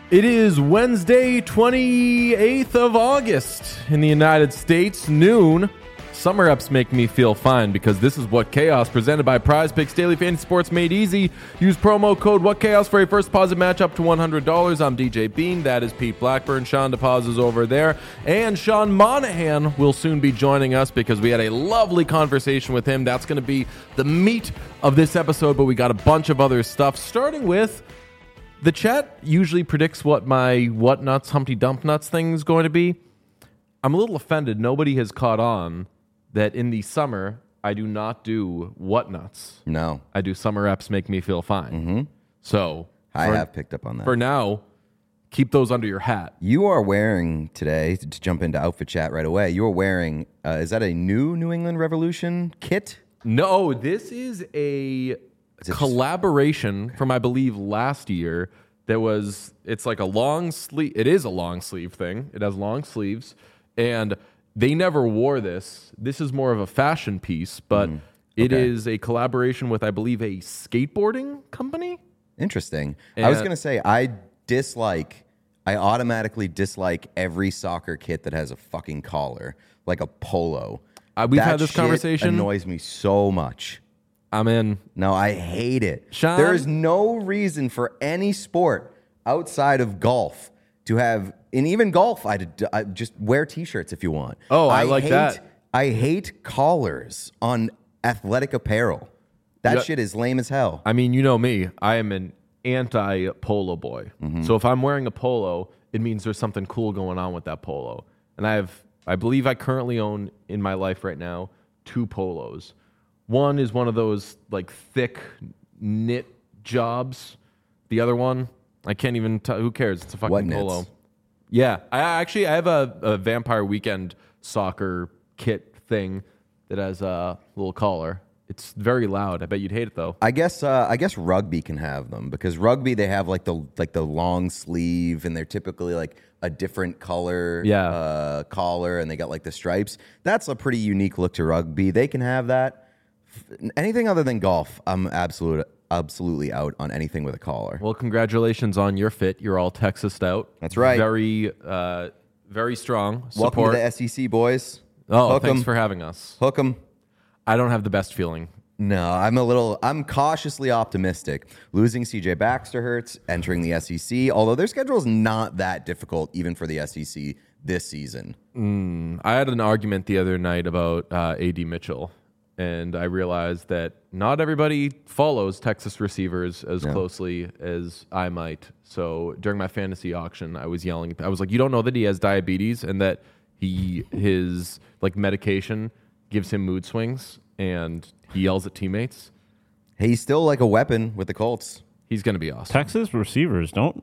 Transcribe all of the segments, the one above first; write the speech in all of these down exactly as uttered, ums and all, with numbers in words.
It is Wednesday, twenty-eighth of August in the United States, noon. Summer ups make me feel fine because this is What Chaos, presented by Prize Picks, daily fantasy sports made easy. Use promo code What Chaos for a first deposit match up to one hundred dollars. I'm D J Bean. That is Pete Blackburn. Sean DePaz is over there. And Sean Monahan will soon be joining us because we had a lovely conversation with him. That's going to be the meat of this episode, but we got a bunch of other stuff, starting with the chat usually predicts what my what nuts, Humpty Dump Nuts thing is going to be. I'm a little offended. Nobody has caught on that in the summer, I do not do what nuts. No. I do summer reps make me feel fine. Mm-hmm. So I for, have picked up on that. For now, keep those under your hat. You are wearing today, to jump into outfit chat right away, you are wearing, uh, is that a new New England Revolution kit? No, this is a collaboration from, I believe, last year. There was, it's like a long sleeve, it is a long sleeve thing. It has long sleeves, and they never wore this. This is more of a fashion piece, but mm, okay. It is a collaboration with, I believe, a skateboarding company. Interesting. And I was going to say, I dislike, I automatically dislike every soccer kit that has a fucking collar, like a polo. Uh, we've that had this shit conversation. Annoys me so much. I'm in. No, I hate it. Sean? There is no reason for any sport outside of golf to have, and even golf, I, I just wear T-shirts if you want. Oh, I, I like hate, that. I hate collars on athletic apparel. That yeah. shit is lame as hell. I mean, you know me. I am an anti-polo boy. Mm-hmm. So if I'm wearing a polo, it means there's something cool going on with that polo. And I have, I believe I currently own in my life right now two polos. One is one of those like thick knit jobs. The other one, I can't even tell. Who cares? It's a fucking what polo. knits? Yeah, I actually I have a, a Vampire Weekend soccer kit thing that has a little collar. It's very loud. I bet you'd hate it though. I guess uh, I guess rugby can have them because rugby they have like the like the long sleeve and they're typically like a different color yeah. uh, collar and they got like the stripes. That's a pretty unique look to rugby. They can have that. Anything other than golf, I'm absolute, absolutely out on anything with a collar. Well, congratulations on your fit. You're all Texased out. That's right. Very, uh, very strong support. Welcome to the S E C, boys. Oh, Hook thanks 'em. for having us. Hook 'em. I don't have the best feeling. No, I'm a little, I'm cautiously optimistic. Losing C J Baxter hurts, entering the S E C, although their schedule is not that difficult even for the S E C this season. Mm, I had an argument the other night about uh, A D Mitchell. And I realized that not everybody follows Texas receivers as no. closely as I might. So during my fantasy auction, I was yelling. I was like, "You don't know that he has diabetes and that he his like medication gives him mood swings, and he yells at teammates." He's still like a weapon with the Colts. He's going to be awesome. Texas receivers don't.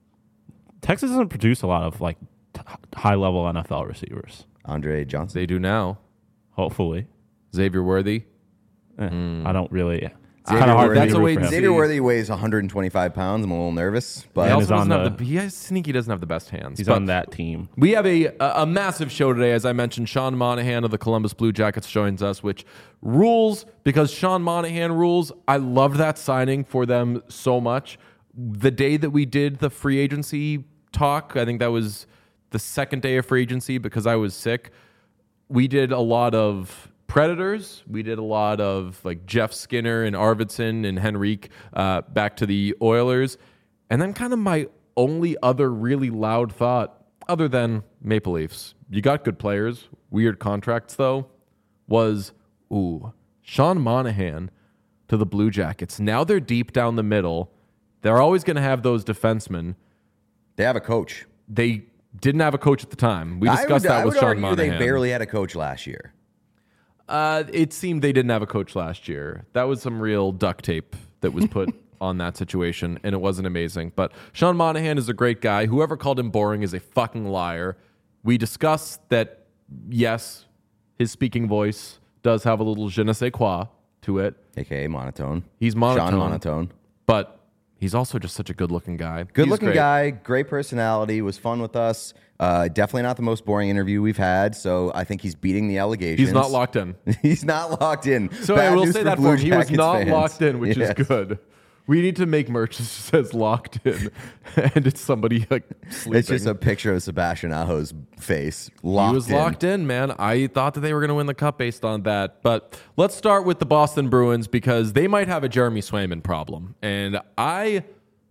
Texas doesn't produce a lot of like t- high level N F L receivers. Andre Johnson. They do now. Hopefully. Xavier Worthy. Eh, mm. I don't really. Yeah. Xavier, hard, Worthy, that's a wait and Xavier see. Worthy weighs one hundred twenty-five pounds. I'm a little nervous, but He also doesn't on have the, the. He has sneaky doesn't have the best hands. He's but on that team. We have a, a a massive show today, as I mentioned. Sean Monahan of the Columbus Blue Jackets joins us, which rules because Sean Monahan rules. I loved that signing for them so much. The day that we did the free agency talk, I think that was the second day of free agency because I was sick. We did a lot of Predators. We did a lot of like Jeff Skinner and Arvidsson and Henrique uh, back to the Oilers. And then kind of my only other really loud thought, other than Maple Leafs, you got good players, weird contracts though, was, ooh, Sean Monahan to the Blue Jackets. Now they're deep down the middle. They're always going to have those defensemen. they have a coach. They didn't have a coach at the time. We discussed I would, that I with would Sean argue Monahan. They barely had a coach last year. Uh, it seemed they didn't have a coach last year. That was some real duct tape that was put on that situation, and it wasn't amazing. But Sean Monahan is a great guy. Whoever called him boring is a fucking liar. We discussed that, yes, his speaking voice does have a little je ne sais quoi to it. A K A monotone. He's monotone. Sean Monotone. But he's also just such a good-looking guy. Good-looking great. guy, great personality, was fun with us. Uh, definitely not the most boring interview we've had, so I think he's beating the allegations. He's not locked in. He's not locked in. So Bad I will news say for that Blue for him. He was Jackets not fans. locked in, which Yes. is good. We need to make merch that says locked in, and it's somebody like sleeping. It's just a picture of Sebastian Aho's face. Locked he was in. locked in, man. I thought that they were going to win the cup based on that. But let's start with the Boston Bruins because they might have a Jeremy Swayman problem. And I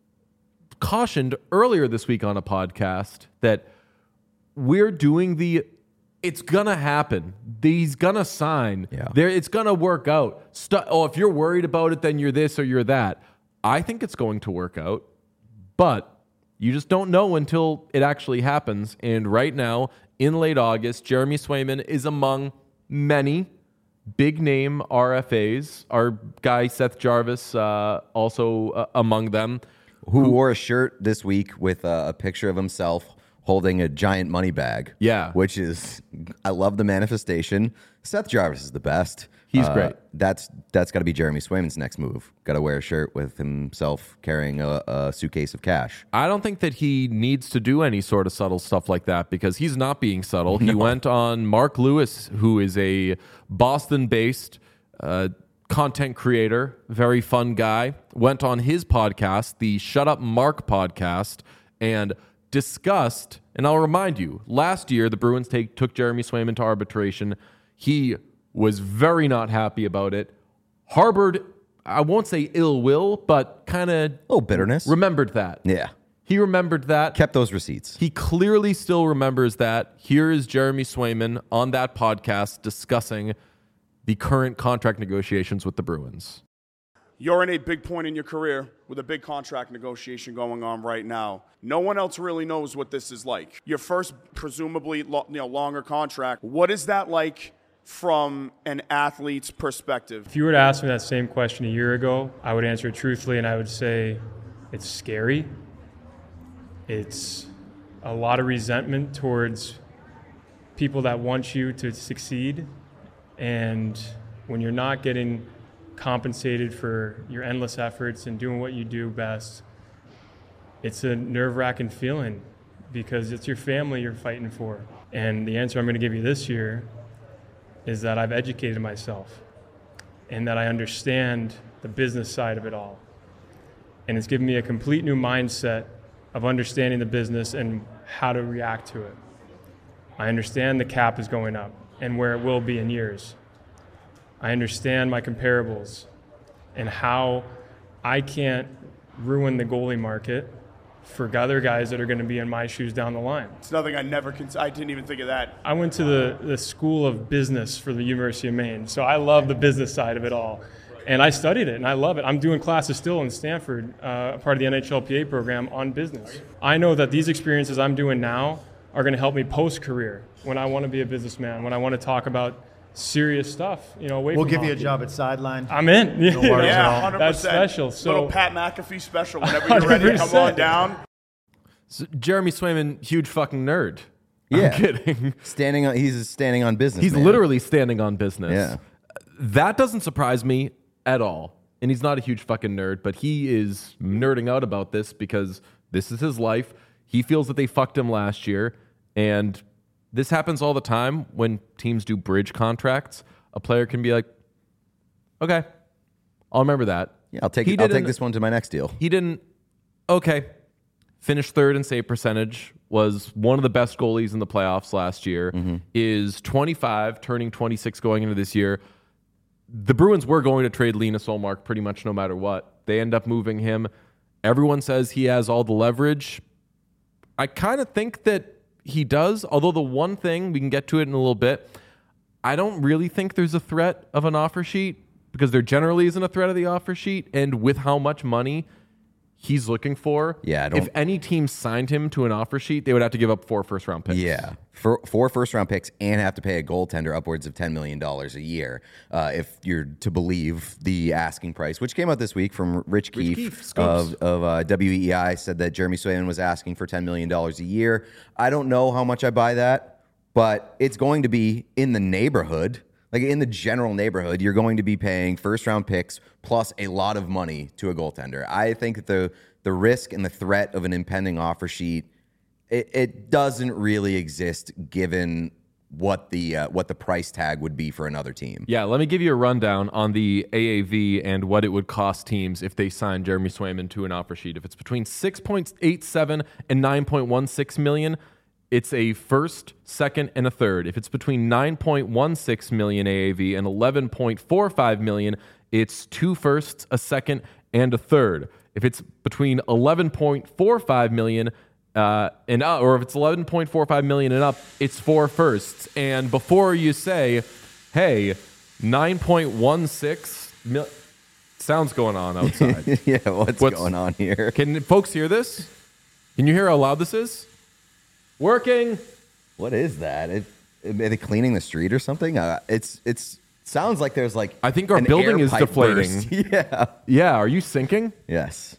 cautioned earlier this week on a podcast that we're doing the it's gonna happen. He's gonna sign. Yeah. There, it's gonna work out. Stu- oh, if you're worried about it, then you're this or you're that. I think it's going to work out, but you just don't know until it actually happens. And right now, in late August, Jeremy Swayman is among many big name R F As. Our guy Seth Jarvis uh, also uh, among them. Who wore a shirt this week with uh, a picture of himself holding a giant money bag. Yeah. Which is, I love the manifestation. Seth Jarvis is the best. He's Uh, great. That's that's got to be Jeremy Swayman's next move. Got to wear a shirt with himself carrying a, a suitcase of cash. I don't think that he needs to do any sort of subtle stuff like that because he's not being subtle. He went on Mark Lewis, who is a Boston-based uh, content creator, very fun guy, went on his podcast, the Shut Up Mark podcast, and discussed, and I'll remind you, last year the Bruins take, took Jeremy Swayman to arbitration. He was very not happy about it, harbored, I won't say ill will, but kind of A little bitterness. remembered that. yeah. He remembered that. Kept those receipts. He clearly still remembers that. Here is Jeremy Swayman on that podcast discussing the current contract negotiations with the Bruins. You're in a big point in your career with a big contract negotiation going on right now. No one else really knows what this is like. Your first, presumably, lo- you know, longer contract. What is that like from an athlete's perspective? If you were to ask me that same question a year ago, I would answer it truthfully and I would say it's scary. It's a lot of resentment towards people that want you to succeed. And when you're not getting compensated for your endless efforts and doing what you do best, it's a nerve-wracking feeling because it's your family you're fighting for. And the answer I'm going to give you this year is that I've educated myself and that I understand the business side of it all. And it's given me a complete new mindset of understanding the business and how to react to it. I understand the cap is going up and where it will be in years. I understand my comparables and how I can't ruin the goalie market for other guys that are going to be in my shoes down the line. It's nothing I never, cons- I didn't even think of that. I went to the, the School of Business for the University of Maine, so I love the business side of it all. And I studied it, and I love it. I'm doing classes still in Stanford, uh, part of the N H L P A program on business. I know that these experiences I'm doing now are going to help me post-career when I want to be a businessman, when I want to talk about serious stuff, you know, away We'll from give you a hockey. job at sideline. I'm in. No worries at Yeah, all. one hundred percent. That's special. So Little Pat McAfee special whenever you're ready to come on one hundred percent. down. So Jeremy Swayman, huge fucking nerd. Yeah. I'm kidding. Standing on, he's standing on business. He's man. literally standing on business. Yeah. That doesn't surprise me at all. And he's not a huge fucking nerd, but he is nerding out about this because this is his life. He feels that they fucked him last year. And this happens all the time when teams do bridge contracts. A player can be like, okay, I'll remember that. Yeah, I'll take He it, I'll take didn't- this one to my next deal. He didn't, okay, finished third in save percentage, was one of the best goalies in the playoffs last year, is twenty-five, turning twenty-six going into this year. The Bruins were going to trade Linus Ullmark pretty much no matter what. They end up moving him. Everyone says he has all the leverage. I kind of think that he does, although the one thing, we can get to it in a little bit, I don't really think there's a threat of an offer sheet because there generally isn't a threat of the offer sheet. And with how much money he's looking for, Yeah, I don't- if any team signed him to an offer sheet, they would have to give up four first round picks. Yeah, for four first round picks and have to pay a goaltender upwards of ten million dollars a year, uh, if you're to believe the asking price, which came out this week from Rich Keefe, Keefe, Scopes. of, of uh, W E I, said that Jeremy Swayman was asking for ten million dollars a year. I don't know how much I buy that, but it's going to be in the neighborhood. Like in the general neighborhood, you're going to be paying first round picks plus a lot of money to a goaltender. I think that the the risk and the threat of an impending offer sheet, it, it doesn't really exist given what the uh, what the price tag would be for another team. Yeah, let me give you a rundown on the A A V and what it would cost teams if they signed Jeremy Swayman to an offer sheet. If it's between six point eight seven and nine point one six million, it's a first, second, and a third. If it's between nine point one six million A A V and eleven point four five million, it's two firsts, a second, and a third. If it's between eleven point four five million uh, and uh, or if it's eleven point four five million and up, it's four firsts. And before you say, "Hey, nine point one six mil," sounds going on outside. Yeah, what's, What's- going on here? Can folks hear this? Can you hear how loud this is? Working. What is that? It, are they cleaning the street or something? Uh, it's it's sounds like there's like I think our an building air is pipe deflating. burst. Yeah. Yeah, are you sinking? Yes.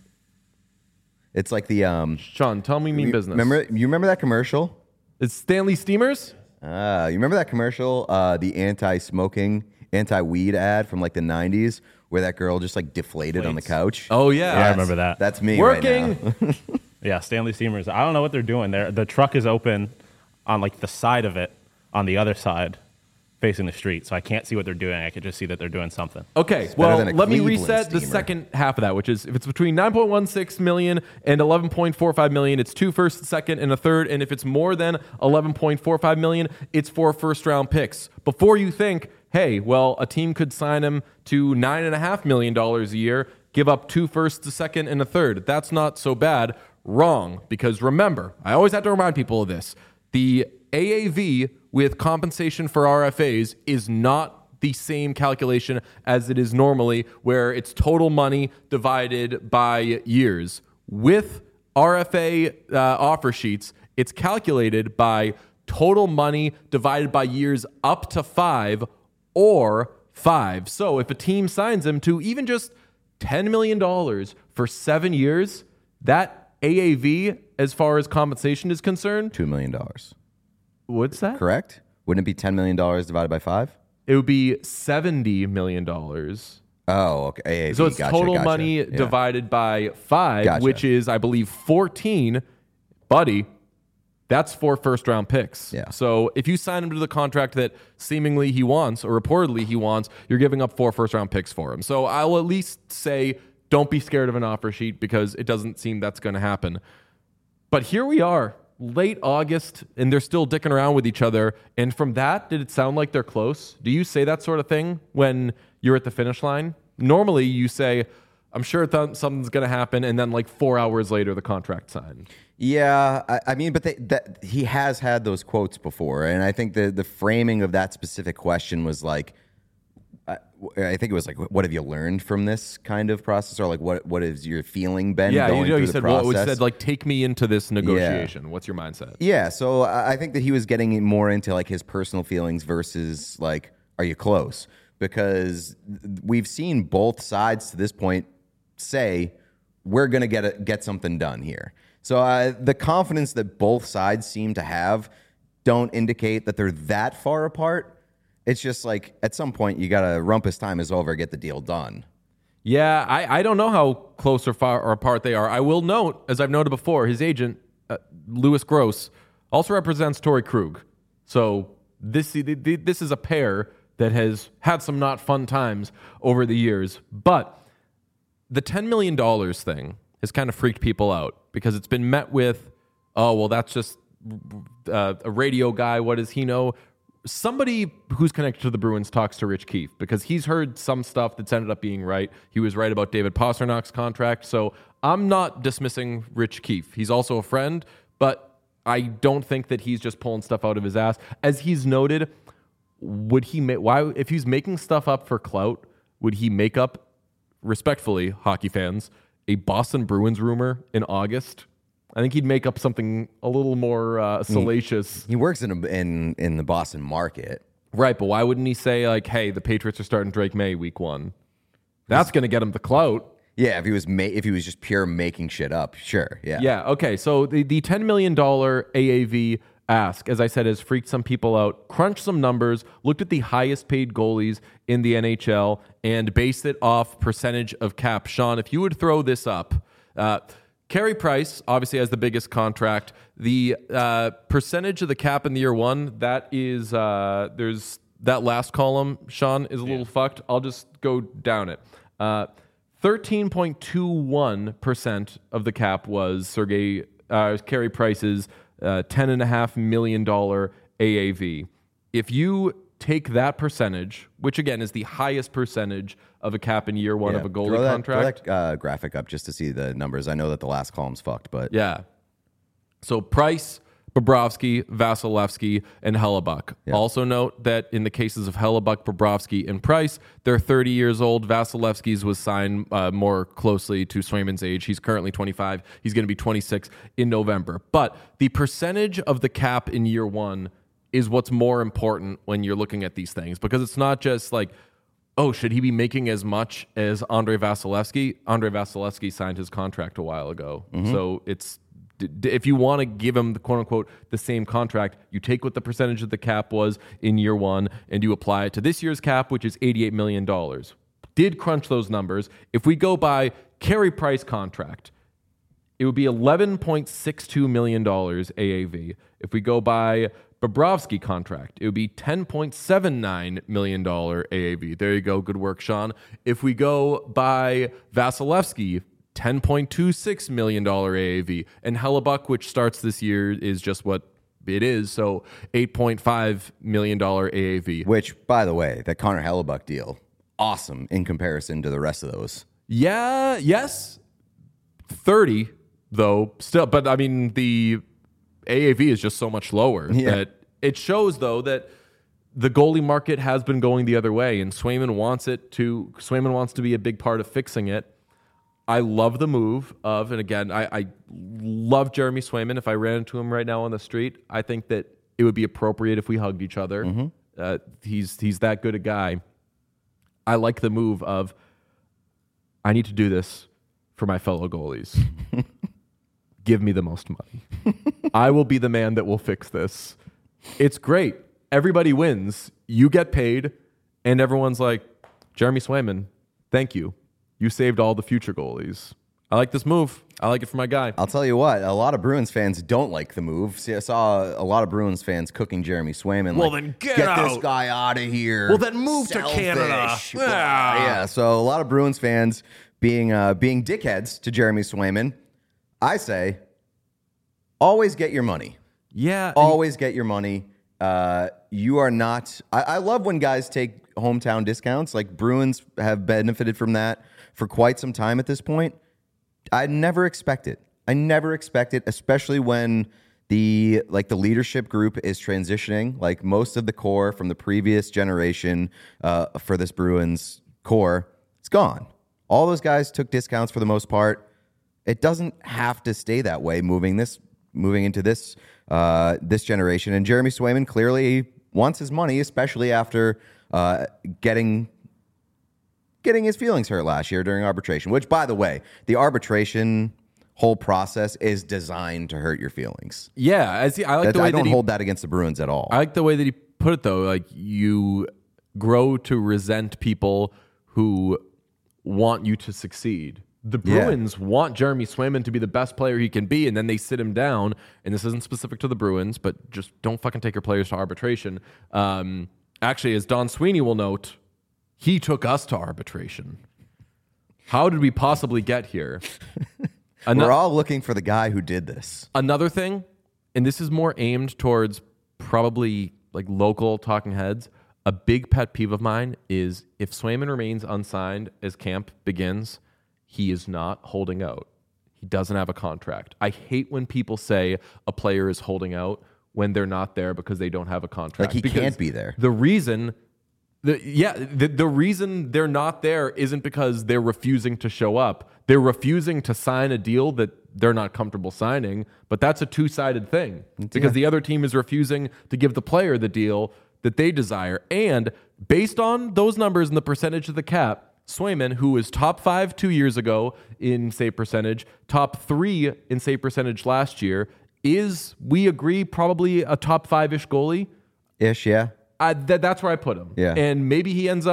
It's like the um. Sean, tell me mean you- business. Remember you remember that commercial? It's Stanley Steamers? Uh, you remember that commercial, uh, the anti-smoking, anti-weed ad from like the nineties, where that girl just like deflated on the couch? Oh, yeah. Yeah, I remember that. That's me. Working. Right now. Yeah, Stanley Steamers. I don't know what they're doing there. The truck is open on like the side of it, on the other side, facing the street. So I can't see what they're doing. I can just see that they're doing something. Okay, better well, than a let me Cleveland reset the steamer. second half of that, which is if it's between nine point one six million and eleven point four five million, it's two first, a second, and a third. And if it's more than eleven point four five million, it's four first round picks. Before you think, hey, well, a team could sign him to nine and a half million dollars a year, give up two firsts, a second, and a third. That's not so bad. Wrong, because remember, I always have to remind people of this. The A A V with compensation for R F As is not the same calculation as it is normally, where it's total money divided by years. With R F A uh, offer sheets, it's calculated by total money divided by years up to five or five. So if a team signs him to even just ten million dollars for seven years, that A A V, as far as compensation is concerned, Two million dollars. what's that? Correct? Wouldn't it be ten million dollars divided by five? It would be seventy million dollars. Oh, okay. A A V, So it's gotcha, total gotcha. money Yeah. divided by five, Gotcha. which is, I believe, fourteen. Buddy, that's four first round picks. Yeah. So if you sign him to the contract that seemingly he wants, or reportedly he wants, you're giving up four first round picks for him. So I'll at least say don't be scared of an offer sheet, because it doesn't seem that's going to happen. But here we are, late August, and they're still dicking around with each other. And from that, did it sound like they're close? Do you say that sort of thing when you're at the finish line? Normally, you say, I'm sure th- something's going to happen, and then like four hours later, the contract signed. Yeah, I, I mean, but they, that, he has had those quotes before, and I think the the framing of that specific question was like, I, I think it was like, what have you learned from this kind of process, or like what what is your feeling been? Yeah, going you know, through you the said, well, process? it said like, take me into this negotiation. What's your mindset? Yeah, so I I think that he was getting more into like his personal feelings versus like, are you close? Because we've seen both sides to this point say we're gonna get a, get something done here. So uh, the confidence that both sides seem to have don't indicate that they're that far apart. It's just like at some point you gotta rumpus time is over, get the deal done. Yeah, I, I don't know how close or far or apart they are. I will note, as I've noted before, his agent, uh, Louis Gross, also represents Torrey Krug. So this this is a pair that has had some not fun times over the years. But the ten million dollars thing has kind of freaked people out, because it's been met with, oh, well, that's just uh, a radio guy. What does he know? Somebody who's connected to the Bruins talks to Rich Keefe, because he's heard some stuff that's ended up being right. He was right about David Pasternak's contract. So I'm not dismissing Rich Keefe. He's also a friend, but I don't think that he's just pulling stuff out of his ass. As he's noted, would he make, why, if he's making stuff up for clout, would he make up, respectfully, hockey fans, a Boston Bruins rumor in August? I think he'd make up something a little more uh, salacious. He works in a, in in the Boston market. Right, but why wouldn't he say, like, hey, the Patriots are starting Drake May week one? That's going to get him the clout. Yeah, if he was ma- if he was just pure making shit up, sure. Yeah. Yeah, okay. So the, the ten million dollars A A V ask, as I said, has freaked some people out. Crunched some numbers, looked at the highest paid goalies in the N H L, and based it off percentage of cap. Sean, if you would throw this up, uh, Carey Price obviously has the biggest contract. The uh, percentage of the cap in the year one, that is, uh, there's that last column, Sean, is a little fucked. I'll just go down it. Uh, thirteen point two one percent of the cap was Sergei uh, Carey Price's uh, ten point five million dollars A A V. If you take that percentage, which again is the highest percentage of a cap in year one Yeah, of a goalie throw that, contract. Throw that uh, graphic up just to see the numbers. I know that the last column's fucked, but Yeah. So Price, Bobrovsky, Vasilevsky, and Hellebuck. Yeah. Also note that in the cases of Hellebuck, Bobrovsky, and Price, they're thirty years old. Vasilevsky's was signed uh, more closely to Swayman's age. He's currently twenty-five. He's going to be twenty-six in November. But the percentage of the cap in year one is what's more important when you're looking at these things, because it's not just like, oh, should he be making as much as Andrei Vasilevsky? Andrei Vasilevsky signed his contract a while ago. Mm-hmm. So it's, d- d- if you want to give him the quote unquote the same contract, you take what the percentage of the cap was in year one and you apply it to this year's cap, which is eighty-eight million dollars. Did crunch those numbers. If we go by Carey Price contract, it would be eleven point six two million dollars A A V. If we go by Bobrovsky contract, it would be ten point seven nine million dollars A A V. There you go. Good work, Sean. If we go by Vasilevsky, ten point two six million dollars A A V. And Hellebuck, which starts this year, is just what it is. So eight point five million dollars A A V. which, by the way, that Connor Hellebuck deal, awesome in comparison to the rest of those. Yeah, yes. thirty, though, still. But, I mean, the A A V is just so much lower Yeah. that it shows, though, that the goalie market has been going the other way, and Swayman wants it to. Swayman wants to be a big part of fixing it. I love the move of, and again, I, I love Jeremy Swayman. If I ran into him right now on the street, I think that it would be appropriate if we hugged each other. Mm-hmm. Uh, he's he's that good a guy. I like the move of, I need to do this for my fellow goalies. Give me the most money. I will be the man that will fix this. It's great. Everybody wins. You get paid, and everyone's like, Jeremy Swayman, thank you. You saved all the future goalies. I like this move. I like it for my guy. I'll tell you what, a lot of Bruins fans don't like the move. See, I saw a lot of Bruins fans cooking Jeremy Swayman. Well, like, then get this out." guy out of here. Well, then move to Selfish. Canada. Blah. Yeah. Yeah, so a lot of Bruins fans being uh, being dickheads to Jeremy Swayman. I say, always get your money. Yeah. and- Always get your money. Uh, you are not. I, I love when guys take hometown discounts. Like Bruins have benefited from that for quite some time at this point. I never expect it. I never expect it, especially when the like the leadership group is transitioning. Like most of the core from the previous generation uh, for this Bruins core, it's gone. All those guys took discounts for the most part. It doesn't have to stay that way. Moving this, moving into this uh, this generation, and Jeremy Swayman clearly wants his money, especially after uh, getting. getting his feelings hurt last year during arbitration, which, by the way, the arbitration whole process is designed to hurt your feelings. Yeah. As he, I like That, the way I don't that he, hold that against the Bruins at all. I like the way that he put it, though. Like, you grow to resent people who want you to succeed. The Yeah. Bruins want Jeremy Swayman to be the best player he can be, and then they sit him down. And this isn't specific to the Bruins, but just don't fucking take your players to arbitration. Um, actually, as Don Sweeney will note, he took us to arbitration. How did we possibly get here? Ano- We're all looking for the guy who did this. Another thing, and this is more aimed towards probably like local talking heads, a big pet peeve of mine is if Swayman remains unsigned as camp begins, he is not holding out. He doesn't have a contract. I hate when people say a player is holding out when they're not there because they don't have a contract. Like he Because can't be there. The reason The, yeah, the, the reason they're not there isn't because they're refusing to show up. They're refusing to sign a deal that they're not comfortable signing, but that's a two-sided thing because the other team is refusing to give the player the deal that they desire. And based on those numbers and the percentage of the cap, Swayman, who was top five two years ago in save percentage, top three in save percentage last year, is, we agree, probably a top five-ish goalie. Ish, yeah. I, th- that's where I put him. Yeah. And maybe he ends up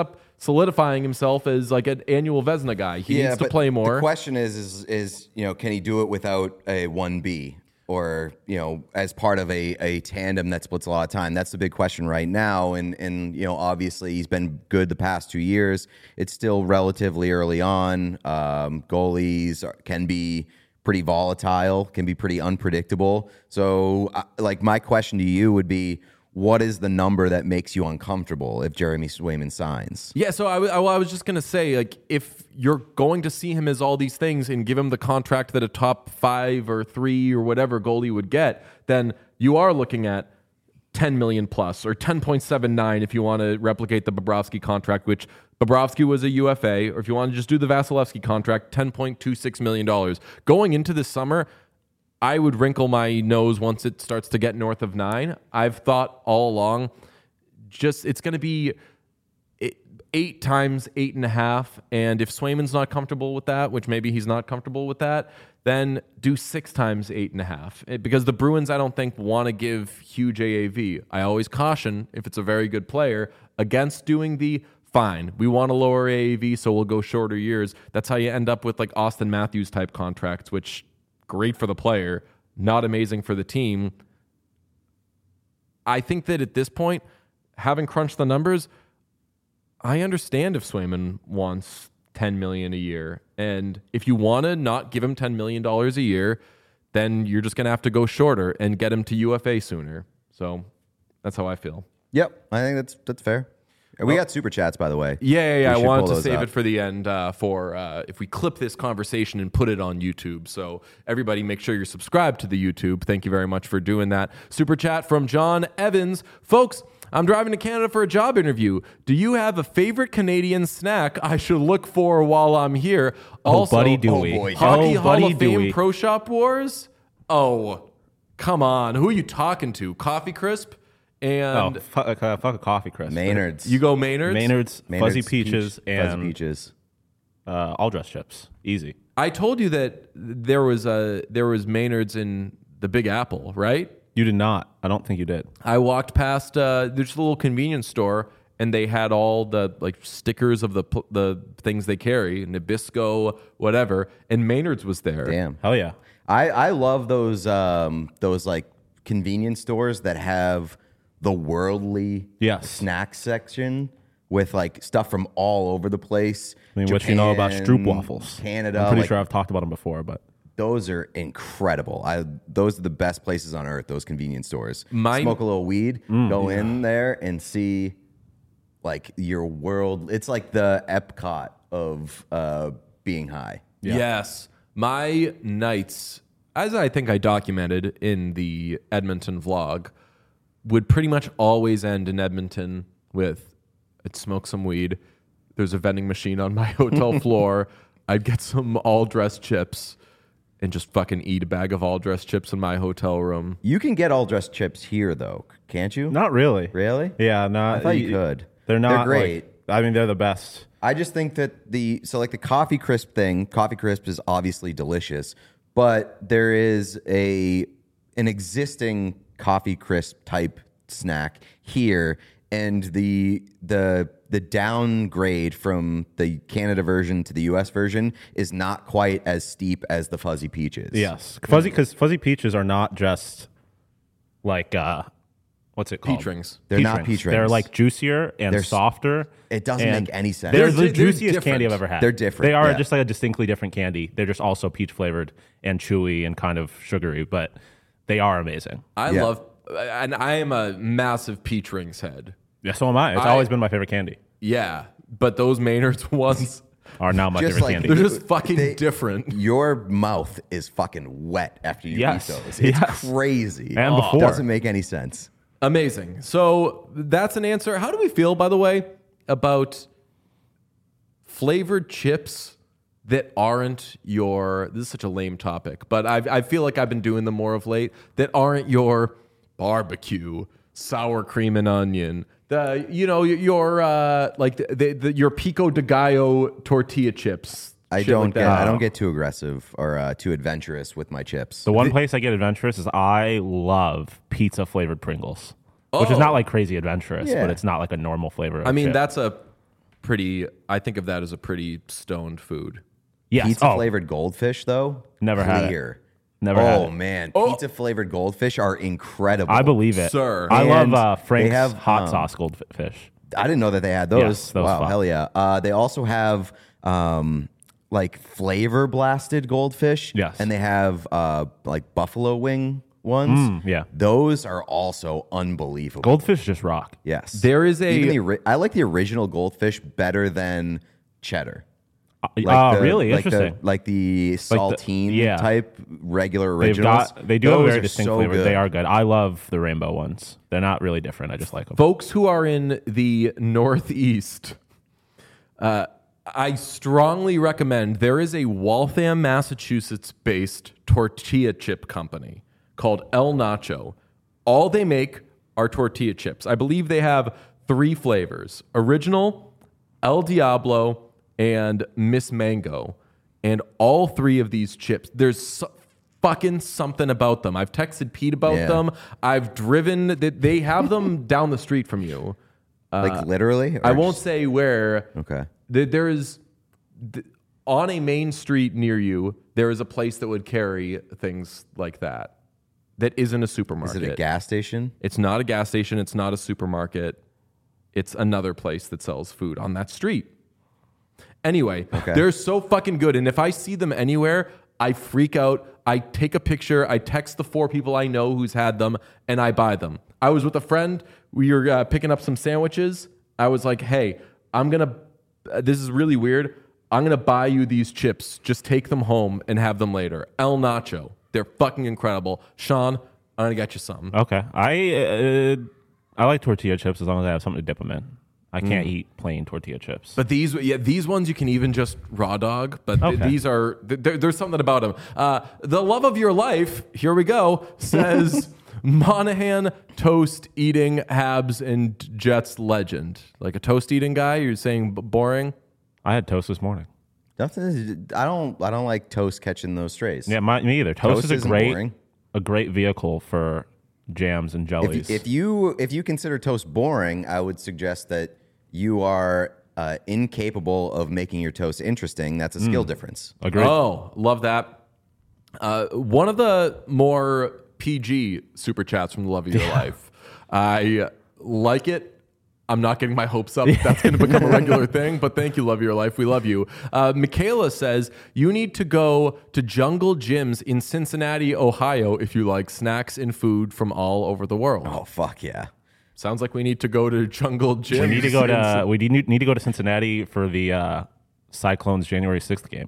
solidifying himself as like an annual Vezina guy. He needs to but play more. The question is, is, is you know, can he do it without a one B or you know, as part of a, a tandem that splits a lot of time? That's the big question right now. And and you know, obviously he's been good the past two years. It's still relatively early on. Um, goalies are, can be pretty volatile, can be pretty unpredictable. So, uh, like, my question to you would be, what is the number that makes you uncomfortable if Jeremy Swayman signs? Yeah, so I, w- I w- I was just going to say, like, if you're going to see him as all these things and give him the contract that a top five or three or whatever goalie would get, then you are looking at ten million plus or ten point seven nine if you want to replicate the Bobrovsky contract, which Bobrovsky was a U F A, or if you want to just do the Vasilevsky contract, ten point two six million dollars. Going into this summer, I would wrinkle my nose once it starts to get north of nine. I've thought all along, just it's going to be eight, eight times eight and a half. And if Swayman's not comfortable with that, which maybe he's not comfortable with that, then do six times eight and a half. It, because the Bruins, I don't think, want to give huge A A V. I always caution, if it's a very good player, against doing the fine. We want to lower A A V, so we'll go shorter years. That's how you end up with like Austin Matthews type contracts, which great for the player, not amazing for the team. I think that at this point, having crunched the numbers, I understand if Swayman wants ten million dollars a year. And if you want to not give him ten million dollars a year, then you're just going to have to go shorter and get him to U F A sooner. So that's how I feel. Yep, I think that's that's fair. We got super chats, by the way. Yeah, yeah, yeah. I should wanted pull to those save up. it for the end uh, for uh, if we clip this conversation and put it on YouTube. So everybody make sure you're subscribed to the YouTube. Thank you very much for doing that. Super chat from John Evans. Folks, I'm driving to Canada for a job interview. Do you have a favorite Canadian snack I should look for while I'm here? Oh, Also, buddy, do we? boy. Hockey oh, Hall buddy, of do Fame we? Pro Shop Wars? Oh, come on. Who are you talking to? Coffee Crisp? Oh, And fuck, uh, fuck a coffee crisp. Maynard's. you go Maynard's? Maynard's, Maynard's fuzzy peaches, peach, fuzzy and peaches. uh, all dress chips. Easy. I told you that there was a there was Maynard's in the Big Apple, right? You did not. I don't think you did. I walked past uh, there's a little convenience store, and they had all the like stickers of the pl- the things they carry, Nabisco, whatever, and Maynard's was there. Damn. Hell yeah. I, I love those um, those like convenience stores that have the worldly Yes. snack section with like stuff from all over the place. I mean, what you know about Japan, Stroop waffles? Canada. I'm pretty like, sure I've talked about them before, but those are incredible. I those are the best places on earth. Those convenience stores. Mine- Smoke a little weed, Mm, go in there and see like your world. It's like the Epcot of uh, being high. Yes, my nights, as I think I documented in the Edmonton vlog, would pretty much always end in Edmonton with I'd smoke some weed. There's a vending machine on my hotel floor. I'd get some all dressed chips and just fucking eat a bag of all dressed chips in my hotel room. You can get all dressed chips here though, can't you? not really. Really? Yeah, not. I thought you could. They're not They're great. like- I mean, they're the best. I just think that the so like the coffee crisp thing, coffee crisp is obviously delicious, but there is a an existing coffee crisp type snack here, and the the the downgrade from the Canada version to the U S version is not quite as steep as the fuzzy peaches. Yes, fuzzy because fuzzy peaches are not just like uh, what's it called? Peach rings. They're not peach They're rings. like juicier and They're s- softer. It doesn't and make any sense. They're, They're the di- they're juiciest candy I've different. ever had. They're different, They are yeah. just like a distinctly different candy. They're just also peach flavored and chewy and kind of sugary, but they are amazing. I Yeah. love, and I am a massive peach rings head. Yeah, so am I. It's I- always been my favorite candy. Yeah, but those Maynard's ones, Are now my Just favorite like- candy. they're just fucking They- different. Your mouth is fucking wet after you Yes. eat those. It's Yes. crazy. And before. Doesn't make any sense. Amazing. So that's an answer. How do we feel, by the way, about flavored chips that aren't your, this is such a lame topic, but I, I feel like I've been doing them more of late, that aren't your barbecue, sour cream and onion, the, you know, your, uh, like the, the, the, your pico de gallo tortilla chips. I shit don't like get. that. I don't get too aggressive or uh, too adventurous with my chips. The one place I get adventurous is I love pizza flavored Pringles, which Oh. is not like crazy adventurous, Yeah. but it's not like a normal flavor. Of I mean, chip. that's a pretty. I think of that as a pretty stoned food. Yes. Pizza oh, flavored goldfish, though. Never had it. Clear. Never oh, had it. man. Oh. Pizza flavored goldfish are incredible. I believe it. Sir. I love And uh, they Frank's have, hot um, sauce goldfish. I didn't know that they had those. Yes, those wow, fuck. hell yeah. Uh, they also have um, like flavor blasted goldfish. Yes. And they have uh, like buffalo wing ones. Mm, yeah. Those are also unbelievable. Goldfish just rock. Yes. There is a- Even the, ori- I like the original goldfish better than cheddar. Uh, Like the- really like interesting. The, like the saltine yeah. type regular They've originals. got they do have Those very are distinct so flavors. good. They are good. I love the rainbow ones. They're not really different. I just like them. Folks who are in the Northeast, uh, I strongly recommend there is a Waltham, Massachusetts-based tortilla chip company called El Nacho. All they make are tortilla chips. I believe they have three flavors: original, El Diablo, and Miss Mango. And all three of these chips, there's so, fucking something about them. I've texted Pete about Yeah. them. I've driven, they, they have them down the street from you. like literally? I Or won't just- say where. Okay. There, there is, th- on a main street near you, there is a place that would carry things like that. That isn't a Is supermarket. it a gas station? It's not a gas station. It's not a supermarket. It's another place that sells food on that street. Anyway, Okay. they're so fucking good. And if I see them anywhere, I freak out. I take a picture. I text the four people I know who's had them, and I buy them. I was with a friend. We were uh, picking up some sandwiches. I was like, hey, I'm going to, uh, this is really weird. I'm going to buy you these chips. Just take them home and have them later. El Nacho. They're fucking incredible. Sean, I'm going to get you something. Okay. I uh, I like tortilla chips as long as I have something to dip them in. I can't eat plain tortilla chips. But these, yeah, these ones you can even just raw dog. But th- Okay. these are th- there, there's something about them. Uh, the love of your life. Here we go. Says Monahan toast eating Habs and Jets legend. Like a toast eating guy. You're saying b- boring. I had toast this morning. Nothing. I don't. I don't like toast catching those strays. Yeah, my, me either. Toast, Toast is a isn't great boring. a great vehicle for jams and jellies. If, if you if you consider toast boring, I would suggest that you are uh, incapable of making your toast interesting. That's a Hmm. skill difference. Agreed. Oh, love that. Uh, one of the more P G super chats from the love of your life. I like it. I'm not getting my hopes up. That's going to become a regular thing, but thank you, love of your life. We love you. Uh, Michaela says, you need to go to Jungle Gyms in Cincinnati, Ohio, if you like snacks and food from all over the world. Oh fuck yeah! Sounds like we need to go to Jungle Gyms. we need to go in to we need, need to go to Cincinnati for the uh, Cyclones January sixth game.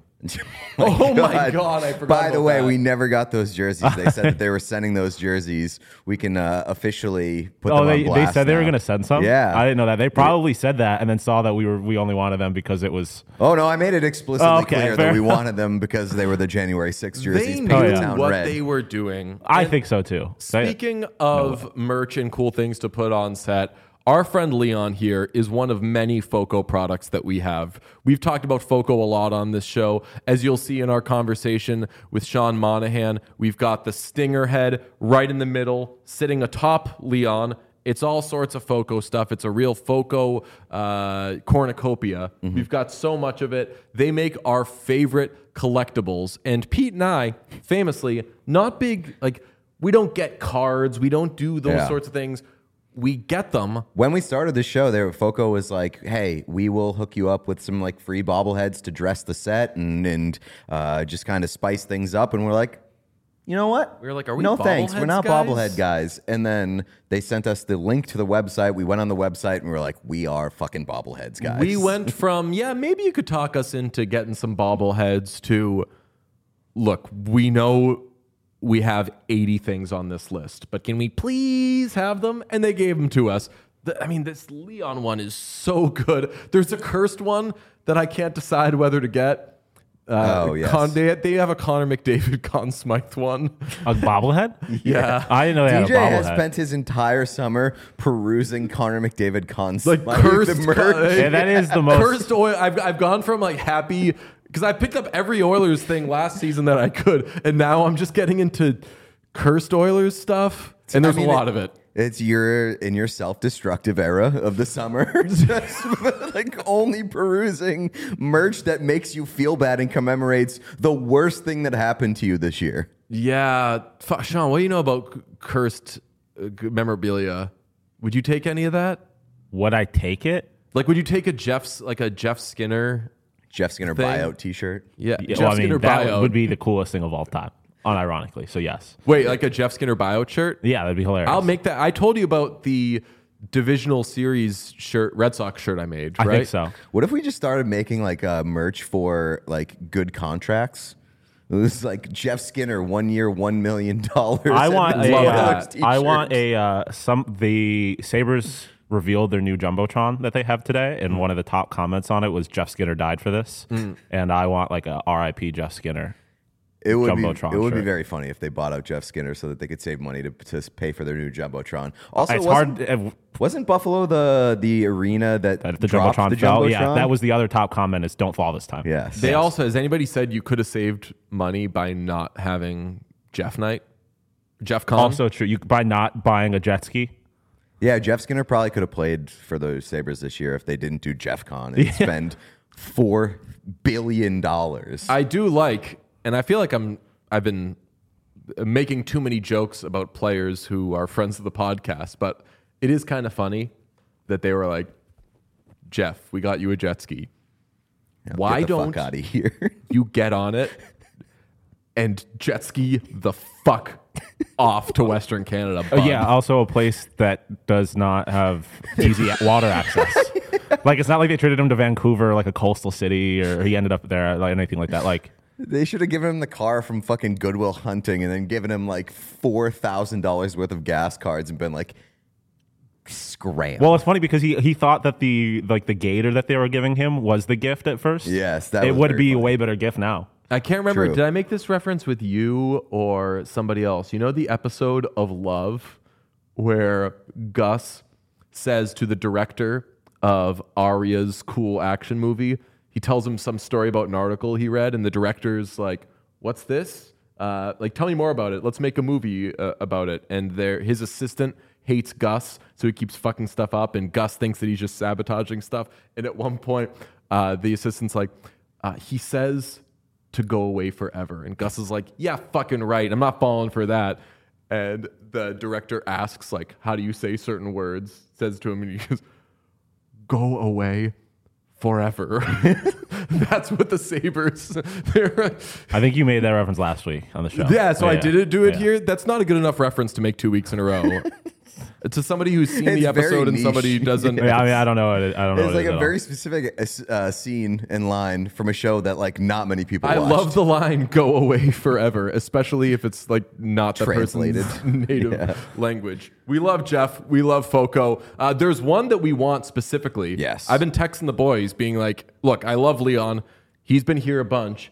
Oh my God, I forgot By the about way, that. we never got those jerseys. They said that they were sending those jerseys. We can uh, officially put Oh, them they, on they blast said they were now. going to send some. Yeah. I didn't know that. They probably said that and then saw that we were we only wanted them because it was. Oh no, I made it explicitly Oh, okay, clear fair that we enough. wanted them because they were the January sixth jerseys. They painted knew yeah. town what red. they were doing. I And think so too. They- Speaking of merch and cool things to put on set, our friend Leon here is one of many FOCO products that we have. We've talked about FOCO a lot on this show. As you'll see in our conversation with Sean Monahan, we've got the stinger head right in the middle, sitting atop Leon. It's all sorts of FOCO stuff. It's a real FOCO uh, cornucopia. We've got so much of it. They make our favorite collectibles. And Pete and I, famously, not big, like, we don't get cards. We don't do those Yeah. sorts of things. We get them. When we started the show, there Foco was like, "Hey, we will hook you up with some like free bobbleheads to dress the set and and uh, just kind of spice things up." And we're like, "You know what? We were like, are we no thanks. We're bobbleheads not guys?" bobblehead guys." And then they sent us the link to the website. We went on the website and we were like, "We are fucking bobbleheads, guys." We went from, yeah, maybe you could talk us into getting some bobbleheads to, look, we know we have eighty things on this list, but can we please have them? And they gave them to us. The, I mean, this Leon one is so good. There's a cursed one that I can't decide whether to get. Uh, Oh, yes. Con, they, they have a Connor McDavid Conn Smythe one. A bobblehead? Yeah. I didn't know they had a D J has bobblehead. spent his entire summer perusing Connor McDavid Con's Like like, cursed the merch. Con- Yeah, that is the most. Cursed oil. I've, I've gone from like happy because I picked up every Oilers thing last season that I could, and now I'm just getting into cursed Oilers stuff. And there's I mean, a lot it- of it. It's your in your self-destructive era of the summer, just like only perusing merch that makes you feel bad and commemorates the worst thing that happened to you this year. Yeah. F- Sean, what do you know about c- cursed uh, g- memorabilia? Would you take any of that? Would I take it? Like, would you take a Jeff's, like a Jeff Skinner? Jeff Skinner Thing. buyout T-shirt. Yeah. Yeah, Jeff well, I mean, Skinner that buyout. would be the coolest thing of all time, unironically. So yes, Wait, like a Jeff Skinner buyout shirt? yeah, that'd be hilarious. I'll make that. I told you about the divisional series shirt, Red Sox shirt I made, I right? think so. What if we just started making like uh, merch for like good contracts? It was like Jeff Skinner, one year, one million dollars. I want a, love uh, that. I want a uh, some the Sabres revealed their new jumbotron that they have today, and one of the top comments on it was Jeff Skinner died for this, and I want like a R I P Jeff Skinner. It would be Jumbotron it would be shirt. very funny if they bought out Jeff Skinner so that they could save money to, to pay for their new jumbotron. Also, It's wasn't, hard. uh, wasn't Buffalo the the arena that, That if the dropped jumbotron the fell, jumbotron? yeah, that was the other top comment is don't fall this time. Yes. They also, has anybody said you could have saved money by not having Jeff Night? Jeff Con? Also true. You by not buying a jet ski. Yeah, Jeff Skinner probably could have played for the Sabres this year if they didn't do Jeff Con and spend four billion dollars. I do like, and I feel like I'm, I've been making too many jokes about players who are friends of the podcast, but it is kind of funny that they were like, Jeff, we got you a jet ski. Why Get the don't fuck out of here? you get on it and jet ski the fuck off to Western Canada? Oh, bud? yeah, also a place that does not have easy water access. Like it's not like they traded him to Vancouver, like a coastal city, or he ended up there, like anything like that. Like They should have given him the car from fucking Goodwill Hunting and then given him like four thousand dollars worth of gas cards and been like, scram. Well, it's funny because he he thought that the like the gator that they were giving him was the gift at first. Yes, that it was would very be a funny. way better gift now. I can't remember. True. Did I make this reference with you or somebody else? You know the episode of Love where Gus says to the director of Arya's cool action movie, he tells him some story about an article he read, and the director's like, "What's this? Uh, like, tell me more about it. Let's make a movie uh, about it." And there, his assistant hates Gus, so he keeps fucking stuff up, and Gus thinks that he's just sabotaging stuff. And at one point, uh, the assistant's like, uh, he says to go away forever. And Gus is like, yeah, fucking right. I'm not falling for that. And the director asks, like, how do you say certain words? Says to him, and he goes, go away forever. That's what the Sabres. they're- I think you made that reference last week on the show. yeah, so I didn't do it Yeah. here. That's not a good enough reference to make two weeks in a row. To somebody who's seen It's the very episode and niche. somebody who doesn't. Yeah, I mean, I don't know. What it, I don't know. It's what like it is a at very all. specific uh, scene and line from a show that like not many people I watched. love the line "go away forever," especially if it's like not the Translated. person's native Yeah. language. We love Jeff. We love Foco. Uh, there's one that we want specifically. Yes. I've been texting the boys, being like, "Look, I love Leon. He's been here a bunch.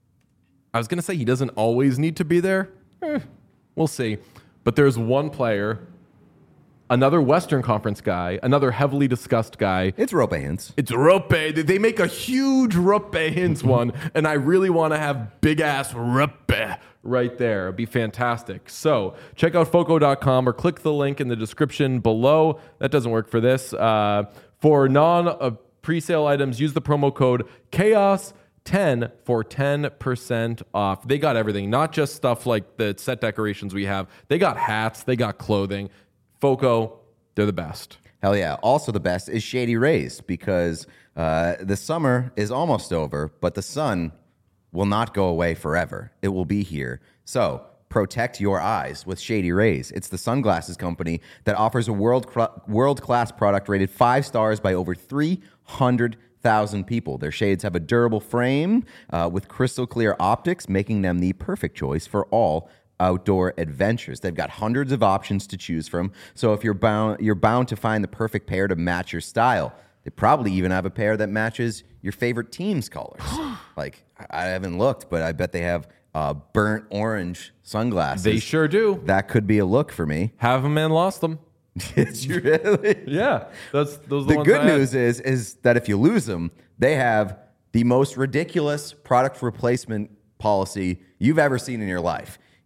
I was gonna say he doesn't always need to be there. Eh, we'll see. But there's one player, another Western Conference guy, another heavily discussed guy." It's rope hands. It's Ruppe. They make a huge Ruppe Hintz one, and I really want to have big ass Ruppe right there. It'd be fantastic. So check out Foco dot com or click the link in the description below. That doesn't work for this. Uh, for non uh, pre-sale items, use the promo code chaos ten for ten percent off. They got everything, not just stuff like the set decorations we have. They got hats, they got clothing. Foco, they're the best. Hell yeah. Also, the best is Shady Rays because uh, the summer is almost over, but the sun will not go away forever. It will be here. So protect your eyes with Shady Rays. It's the sunglasses company that offers a world world-class product rated five stars by over three hundred thousand people. Their shades have a durable frame uh, with crystal clear optics, making them the perfect choice for all outdoor adventures. They've got hundreds of options to choose from, so if you're bound you're bound to find the perfect pair to match your style. They probably even have a pair that matches your favorite team's colors. Like, I haven't looked, but I bet they have uh, burnt orange sunglasses. They sure do. That could be a look for me. Have them and lost them. It's really Yeah, that's those. Are the the ones good I had. news is is that if you lose them, they have the most ridiculous product replacement policy you've ever seen in your life.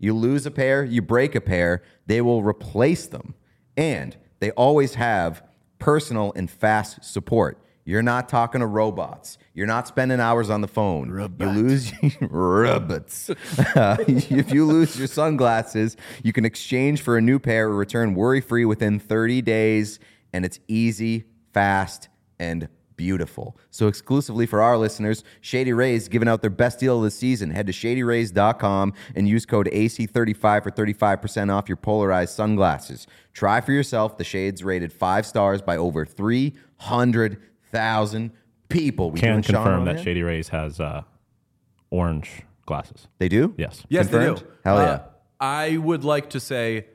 You lose a pair, you break a pair, they will replace them. And they always have personal and fast support. You're not talking to robots. You're not spending hours on the phone. Robot. You lose robots. Uh, if you lose your sunglasses, you can exchange for a new pair or return worry-free within thirty days, and it's easy, fast, and beautiful. So exclusively for our listeners, Shady Rays giving out their best deal of the season. Head to shady rays dot com and use code A C thirty-five for thirty-five percent off your polarized sunglasses. Try for yourself the shades rated five stars by over three hundred thousand people. We Can doing Sean confirm on that here? Shady Rays has uh, orange glasses. They do? Yes. Yes, Confirmed? they do. Hell yeah. Uh, I would like to say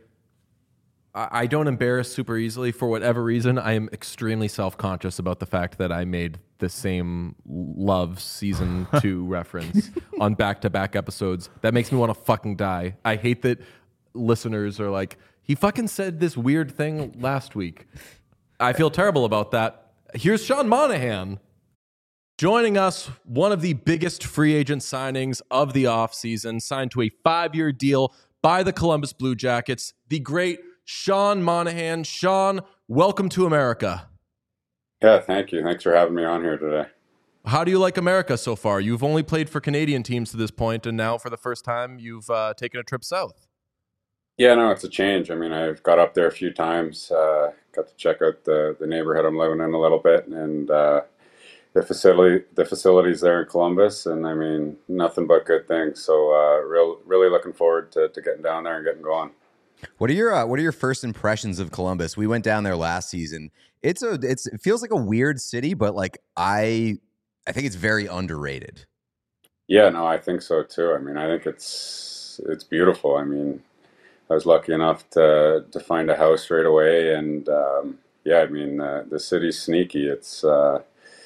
I I don't embarrass super easily for whatever reason. I am extremely self-conscious about the fact that I made the same Love season two reference on back-to-back episodes. That makes me want to fucking die. I hate that listeners are like, he fucking said this weird thing last week. I feel terrible about that. Here's Sean Monahan. Joining us, one of the biggest free agent signings of the offseason, signed to a five-year deal by the Columbus Blue Jackets, the great Sean Monahan. Sean, welcome to America. Yeah, thank you. Thanks for having me on here today. How do you like America so far? You've only played for Canadian teams to this point, and now for the first time, you've uh, taken a trip south. Yeah, no, it's a change. I mean, I've got up there a few times, uh, got to check out the, the neighborhood I'm living in a little bit, and uh, the facility, the facilities there in Columbus, and I mean, nothing but good things. So, uh, real, really looking forward to, to getting down there and getting going. What are your uh, What are your first impressions of Columbus? We went down there last season. It's a it's it feels like a weird city, but like I I think it's very underrated. Yeah, no, I think so too. I mean, I think it's it's beautiful. I mean, I was lucky enough to to find a house right away, and um, yeah, I mean, uh, the city's sneaky. It's uh,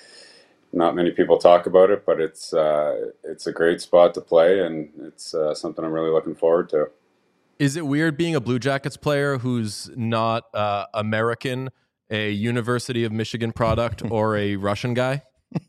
not many people talk about it, but it's uh, it's a great spot to play, and it's uh, something I'm really looking forward to. Is it weird being a Blue Jackets player who's not uh, American, a University of Michigan product, or a Russian guy?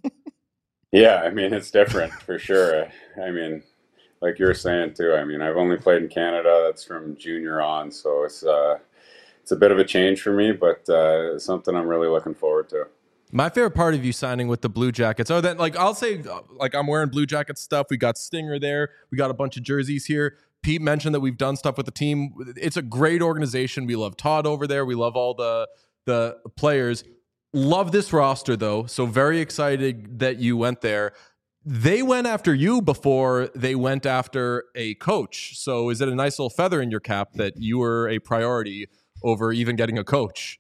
Yeah, I mean, it's different for sure. I mean, like you were saying too, I mean, I've only played in Canada. That's from junior on, so it's uh, it's a bit of a change for me, but uh, something I'm really looking forward to. My favorite part of you signing with the Blue Jackets, oh, that like I'll say, like I'm wearing Blue Jackets stuff. We got Stinger there. We got a bunch of jerseys here. Pete mentioned that we've done stuff with the team. It's a great organization. We love Todd over there. We love all the the players. Love this roster though. So very excited that you went there. They went after you before they went after a coach. So is it a nice little feather in your cap that you were a priority over even getting a coach?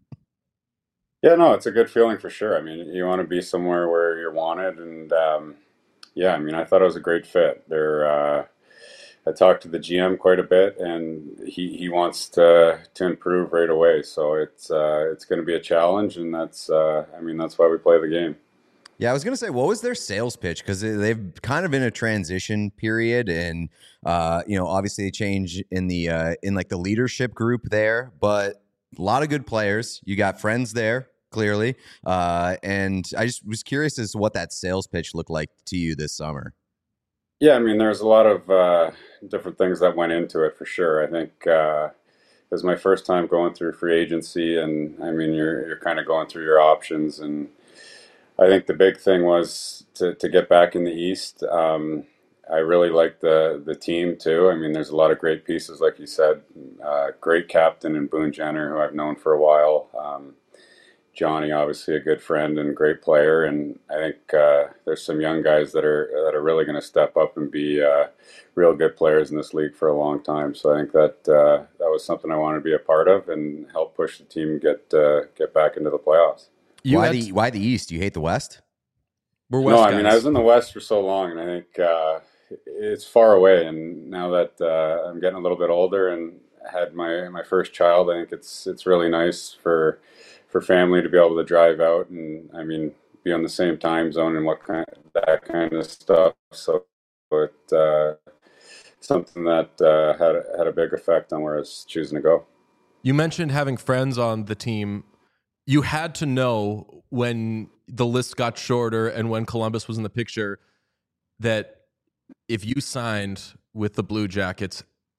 Yeah, no, it's a good feeling for sure. I mean, you want to be somewhere where you're wanted, and um, yeah, I mean, I thought it was a great fit. They're, uh, I talked to the G M quite a bit, and he, he wants to to improve right away. So it's uh, it's going to be a challenge, and that's uh, I mean, that's why we play the game. Yeah, I was gonna say, what was their sales pitch? Because they've kind of in a transition period, and uh, you know, obviously they change in the uh, in like the leadership group there, but a lot of good players. You got friends there, clearly, uh, and I just was curious as to what that sales pitch looked like to you this summer. Yeah, I mean, there's a lot of uh, different things that went into it for sure. I think uh, it was my first time going through free agency, and I mean, you're you're kind of going through your options, and I think the big thing was to, to get back in the East. Um, I really like the the team too. I mean, there's a lot of great pieces, like you said. Uh, great captain in Boone Jenner, who I've known for a while. Um, Johnny, obviously a good friend and great player, and I think uh, there's some young guys that are that are really going to step up and be uh, real good players in this league for a long time. So I think that uh, that was something I wanted to be a part of and help push the team get uh, get back into the playoffs. You why had- the Why the East? You hate the West? We're West no, I guys. mean I was in the West for so long, and I think uh, it's far away. And now that uh, I'm getting a little bit older and had my my first child, I think it's it's really nice for for family to be able to drive out and I mean be on the same time zone and what kind that kind of stuff. So it uh, something that uh, had had a big effect on where I was choosing to go. You mentioned having friends on the team. You had to know when the list got shorter and when Columbus was in the picture that if you signed with the Blue Jackets,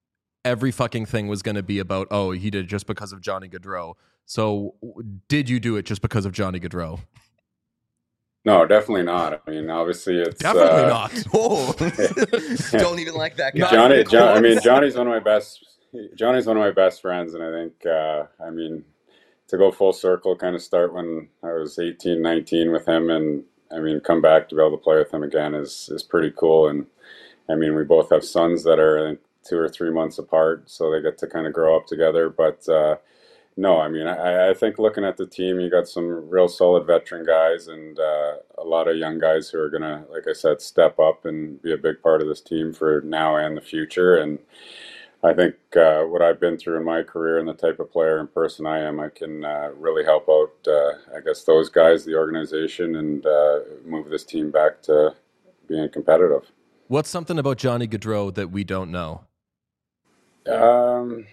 every fucking thing was going to be about, oh, he did it just because of Johnny Gaudreau. So did you do it just because of Johnny Gaudreau? No, definitely not. I mean, obviously it's Definitely uh, not. Oh, don't even like that guy. Johnny, John, I mean, Johnny's one of my best. Johnny's one of my best friends, and I think, uh, I mean, to go full circle, kind of start when I was eighteen, nineteen with him, and I mean, come back to be able to play with him again is is pretty cool. And I mean, we both have sons that are I think, two or three months apart, so they get to kind of grow up together. But uh, no, I mean, I, I think looking at the team, you got some real solid veteran guys and uh, a lot of young guys who are going to, like I said, step up and be a big part of this team for now and the future. And I think uh, what I've been through in my career and the type of player and person I am, I can uh, really help out, uh, I guess, those guys, the organization, and uh, move this team back to being competitive. What's something about Johnny Gaudreau that we don't know? Um...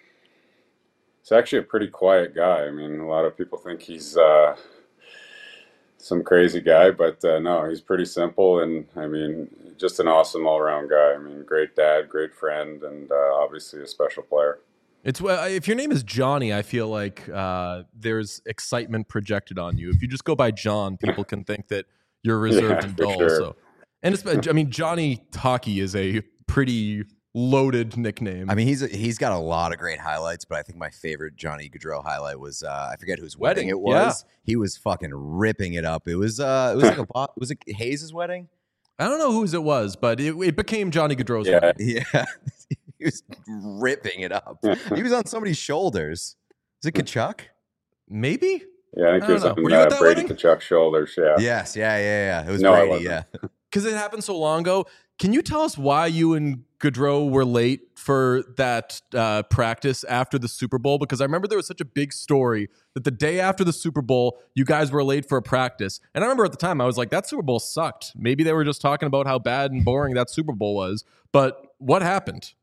He's actually a pretty quiet guy. I mean, a lot of people think he's uh, some crazy guy, but uh, no, he's pretty simple and, I mean, just an awesome all-around guy. I mean, great dad, great friend, and uh, obviously a special player. It's uh, if your name is Johnny, I feel like uh, there's excitement projected on you. If you just go by John, people can think that you're reserved Yeah, and for dull. sure. So, and it's, I mean, Johnny Hockey is a pretty loaded nickname. I mean, he's he's got a lot of great highlights, but I think my favorite Johnny Gaudreau highlight was uh, I forget whose wedding, Wedding, it was. He was fucking ripping it up. It was uh, it was like a bo- was it Hayes' wedding? I don't know whose it was, but it, it became Johnny Gaudreau's Yeah. wedding. Yeah, he was ripping it up. He was on somebody's shoulders. Is it Kachuk? Maybe. Yeah, I think I he was don't know. on Were you at uh, that Brady wedding? Kachuk's shoulders. Yeah. Yes, yeah, yeah, yeah. It was No, I Brady. wasn't. Yeah. Because it happened so long ago. Can you tell us why you and Gaudreau were late for that uh, practice after the Super Bowl? Because I remember there was such a big story that the day after the Super Bowl, you guys were late for a practice. And I remember at the time, I was like, that Super Bowl sucked. Maybe they were just talking about how bad and boring that Super Bowl was. But what happened?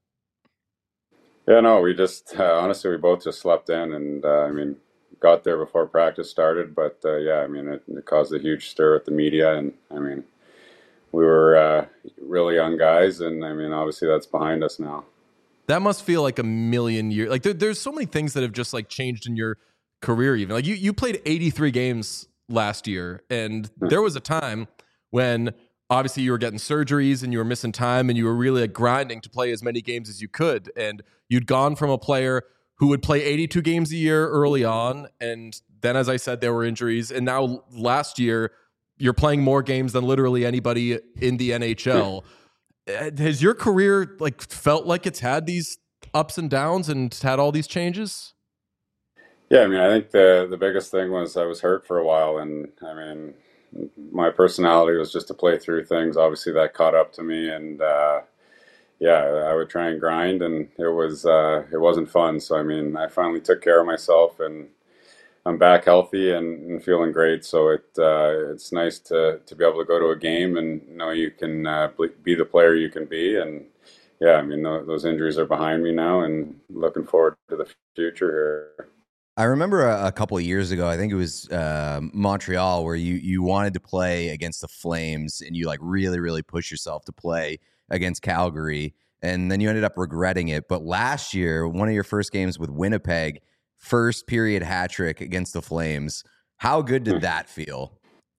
Yeah, no, we just, uh, honestly, we both just slept in and, uh, I mean, got there before practice started. But, uh, yeah, I mean, it, it caused a huge stir with the media. And, I mean, we were uh, really young guys. And, I mean, obviously that's behind us now. That must feel like a million years. Like there, there's so many things that have just like changed in your career. Even like you, you played eighty-three games last year, and there was a time when obviously you were getting surgeries and you were missing time, and you were really like grinding to play as many games as you could. And you'd gone from a player who would play eighty-two games a year early on, and then, as I said, there were injuries, and now last year you're playing more games than literally anybody in the N H L. Has your career like felt like it's had these ups and downs and had all these changes? Yeah, I mean, I think the the biggest thing was I was hurt for a while, and I mean, my personality was just to play through things. Obviously, that caught up to me, and uh, yeah, I would try and grind, and it was uh, it wasn't fun. So I mean, I finally took care of myself, and I'm back healthy and, and feeling great. So it uh, it's nice to to be able to go to a game and know you can uh, be the player you can be. And yeah, I mean, those injuries are behind me now, and looking forward to the future here. I remember a, a couple of years ago, I think it was uh, Montreal, where you you wanted to play against the Flames and you like really, really push yourself to play against Calgary. And then you ended up regretting it. But last year, one of your first games with Winnipeg, first period hat trick against the Flames. How good did that feel?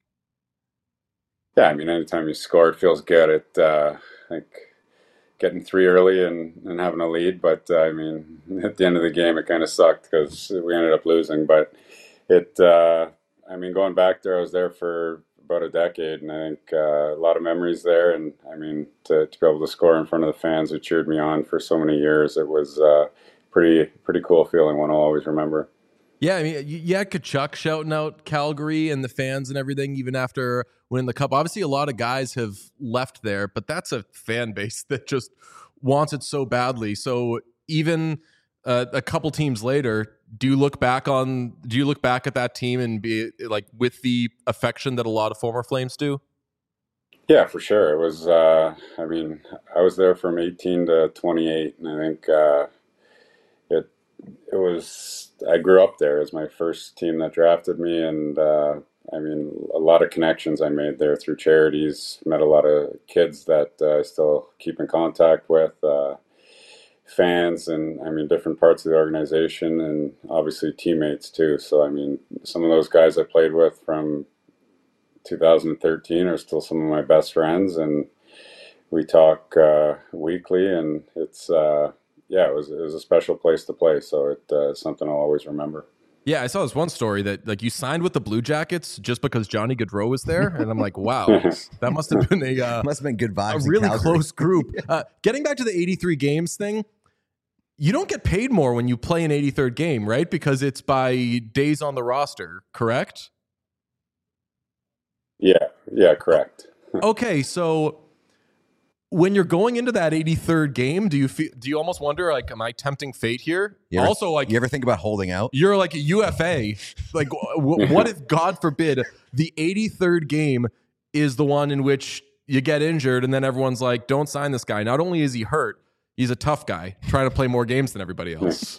Yeah, I mean, anytime you score, it feels good. It, uh, I think getting three early and, and having a lead, but uh, I mean, at the end of the game, it kind of sucked because we ended up losing. But it, uh, I mean, going back there, I was there for about a decade, and I think uh, a lot of memories there. And I mean, to, to be able to score in front of the fans who cheered me on for so many years, it was uh, pretty pretty cool feeling. One I'll always remember. Yeah, I mean, you had Kachuk shouting out Calgary and the fans and everything, even after winning the cup. Obviously, a lot of guys have left there, but that's a fan base that just wants it so badly. So even uh, a couple teams later, do you look back on? Do you look back at that team and be like with the affection that a lot of former Flames do? Yeah, for sure. It was. Uh, I mean, I was there from eighteen to twenty-eight, and I think uh, it it was. I grew up there as my first team that drafted me, and uh, I mean, a lot of connections I made there through charities. Met a lot of kids that uh, I still keep in contact with. Uh, fans and I mean different parts of the organization and obviously teammates too. So I mean some of those guys I played with from two thousand thirteen are still some of my best friends, and we talk uh, weekly, and it's uh, yeah, it was it was a special place to play, so it's uh, something I'll always remember. Yeah, I saw this one story that like you signed with the Blue Jackets just because Johnny Gaudreau was there, and I'm like, wow, that must have been a uh, Must have been good a vibes. in really Calgary. close group. Uh, getting back to the eighty-three games thing, you don't get paid more when you play an eighty-third game, right? Because it's by days on the roster, correct? Yeah, yeah, correct. Okay, so when you're going into that eighty-third game, do you feel, do you almost wonder like, am I tempting fate here? You ever- also, like You ever think about holding out? you're like a U F A. Like, w- what if, God forbid, the eighty-third game is the one in which you get injured, and then everyone's like, "Don't sign this guy." Not only is he hurt, he's a tough guy trying to play more games than everybody else.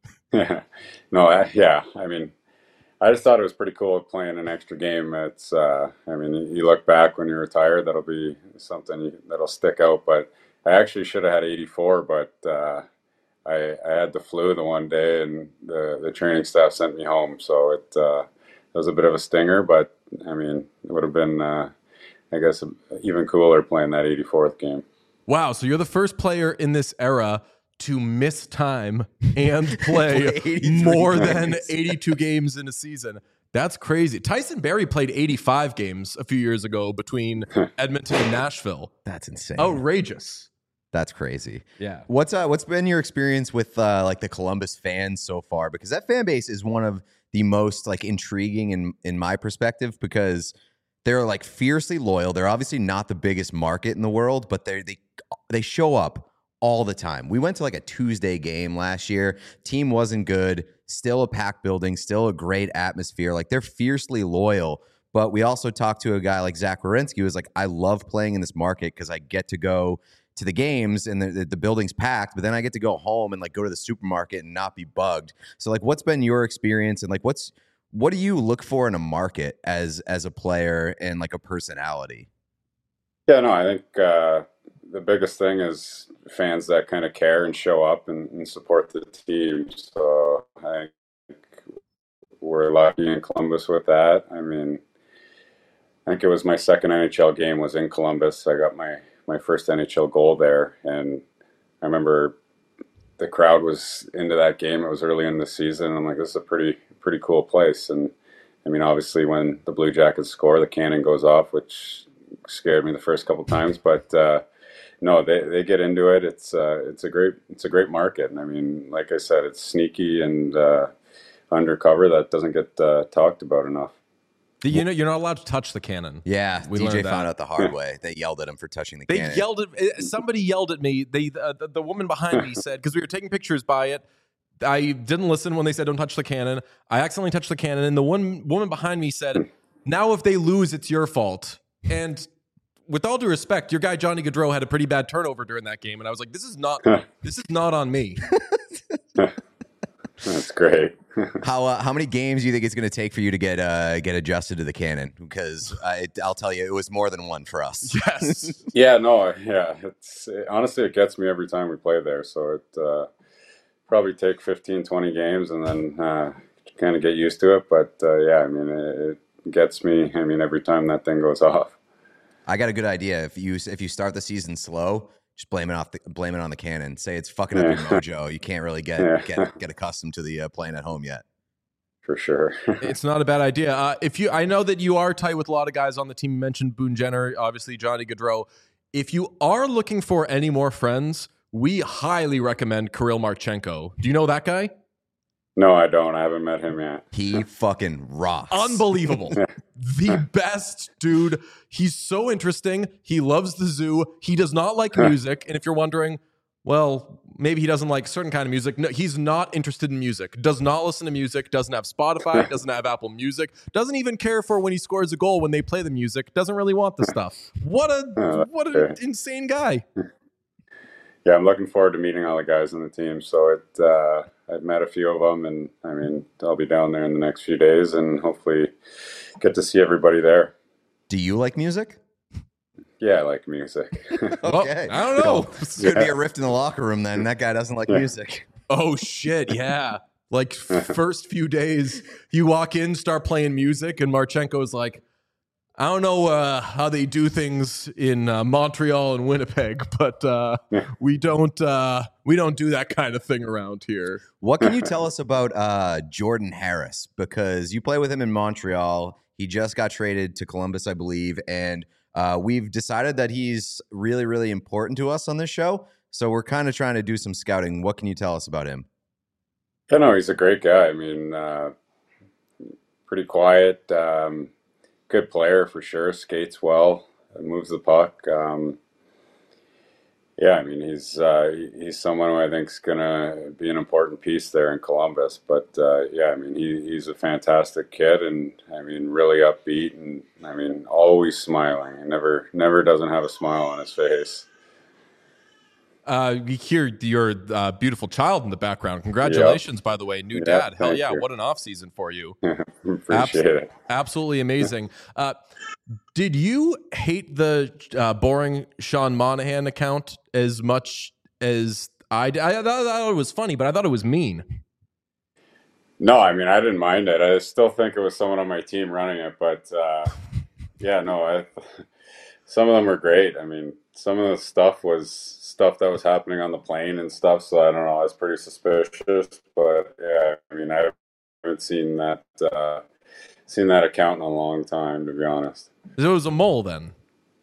no, I, yeah, I mean, I just thought it was pretty cool playing an extra game. It's, uh, I mean, you look back when you're retired, that'll be something you, that'll stick out. But I actually should have had eighty-four, but uh, I, I had the flu the one day, and the, the training staff sent me home. So it, uh, it was a bit of a stinger, but I mean, it would have been, uh, I guess, even cooler playing that eighty-fourth game. Wow, so you're the first player in this era to miss time and play Play eighty-three more than games. eighty-two games in a season. That's crazy. Tyson Berry played eighty-five games a few years ago between Edmonton and Nashville. That's insane. Outrageous. That's crazy. Yeah. What's uh what's been your experience with uh like the Columbus fans so far? Because that fan base is one of the most like intriguing in in my perspective, because they're like fiercely loyal. They're obviously not the biggest market in the world, but they they they show up all the time. We went to like a Tuesday game last year. Team wasn't good. Still a packed building. Still a great atmosphere. Like they're fiercely loyal. But we also talked to a guy like Zach Werenski who was like, I love playing in this market because I get to go to the games and the, the, the building's packed, but then I get to go home and like go to the supermarket and not be bugged. So like, what's been your experience, and like, what's what do you look for in a market as as a player and like a personality? Yeah, no, I think uh, the biggest thing is fans that kind of care and show up and, and support the team. So I think we're lucky in Columbus with that. I mean, I think it was my second N H L game was in Columbus. I got my, my first N H L goal there. And I remember the crowd was into that game. It was early in the season. I'm like, this is a pretty, pretty cool place. And I mean, obviously when the Blue Jackets score, the cannon goes off, which scared me the first couple times, but uh, no, they, they get into it. It's uh, it's a great it's a great market, and I mean, like I said, it's sneaky and uh, undercover that doesn't get uh, talked about enough. The, you know, you're not allowed to touch the cannon. Yeah, We D J learned that. found out the hard way. They yelled at him for touching the They cannon. yelled at eh, somebody yelled at me. They uh, the, the woman behind me said, because we were taking pictures by it. I didn't listen when they said don't touch the cannon. I accidentally touched the cannon, and the one woman behind me said, "Now if they lose, it's your fault." And with all due respect, your guy Johnny Gaudreau had a pretty bad turnover during that game, and I was like, "This is not this is not on me." That's great. How uh, how many games do you think it's going to take for you to get uh, get adjusted to the cannon? Because I, I'll tell you, it was more than one for us. Yes. Yeah, no, yeah. It's it, honestly, it gets me every time we play there. So it uh, probably take fifteen, twenty games and then uh, kind of get used to it. But uh, yeah, I mean, it, it gets me. I mean, every time that thing goes off. I got a good idea. If you if you start the season slow, just blame it off the blame it on the cannon. Say it's fucking up your mojo. You can't really get Yeah. get get accustomed to the uh, playing at home yet. For sure. It's not a bad idea. Uh, if you, I know that you are tight with a lot of guys on the team. You mentioned Boone Jenner, obviously Johnny Gaudreau. If you are looking for any more friends, we highly recommend Kirill Marchenko. Do you know that guy? No, I don't. I haven't met him yet. He fucking rocks. Unbelievable. The best dude. He's so interesting. He loves the zoo. He does not like music. And if you're wondering, well, maybe he doesn't like certain kind of music. No, he's not interested in music. Does not listen to music. Doesn't have Spotify. Doesn't have Apple Music. Doesn't even care for when he scores a goal when they play the music. Doesn't really want the stuff. What a what an insane guy. Yeah, I'm looking forward to meeting all the guys on the team. So it, uh, I've met a few of them, and I mean, I'll be down there in the next few days, and hopefully get to see everybody there. Do you like music? Yeah, I like music. Well, Okay. I don't know. It's going to be a rift in the locker room then. That guy doesn't like music. Oh shit, yeah. Like first few days, you walk in, start playing music, and Marchenko's like, I don't know uh, how they do things in uh, Montreal and Winnipeg, but uh, we don't uh, we don't do that kind of thing around here. What can you tell us about uh, Jordan Harris? Because you play with him in Montreal. He just got traded to Columbus, I believe, and uh, we've decided that he's really, really important to us on this show. So we're kind of trying to do some scouting. What can you tell us about him? Yeah, no, he's a great guy. I mean, uh, pretty quiet. Um, Good player for sure. Skates well, moves the puck. Um, yeah, I mean he's uh, he's someone who I think is gonna be an important piece there in Columbus. But uh, yeah, I mean he, he's a fantastic kid, and I mean really upbeat, and I mean always smiling. He never never doesn't have a smile on his face. Uh, you hear your uh, beautiful child in the background. Congratulations, yep. by the way, new Yep, dad. Hell yeah, you. what an off season for you. Appreciate Abs- it. Absolutely amazing. Uh, did you hate the uh, boring Sean Monahan account as much as I did? I thought it was funny, but I thought it was mean. No, I mean I didn't mind it. I still think it was someone on my team running it, but uh, yeah, no, I, some of them were great. I mean, some of the stuff was stuff that was happening on the plane and stuff. So I don't know. I was pretty suspicious, but yeah, I mean, I haven't seen that uh, seen that account in a long time, to be honest. It was a mole, then.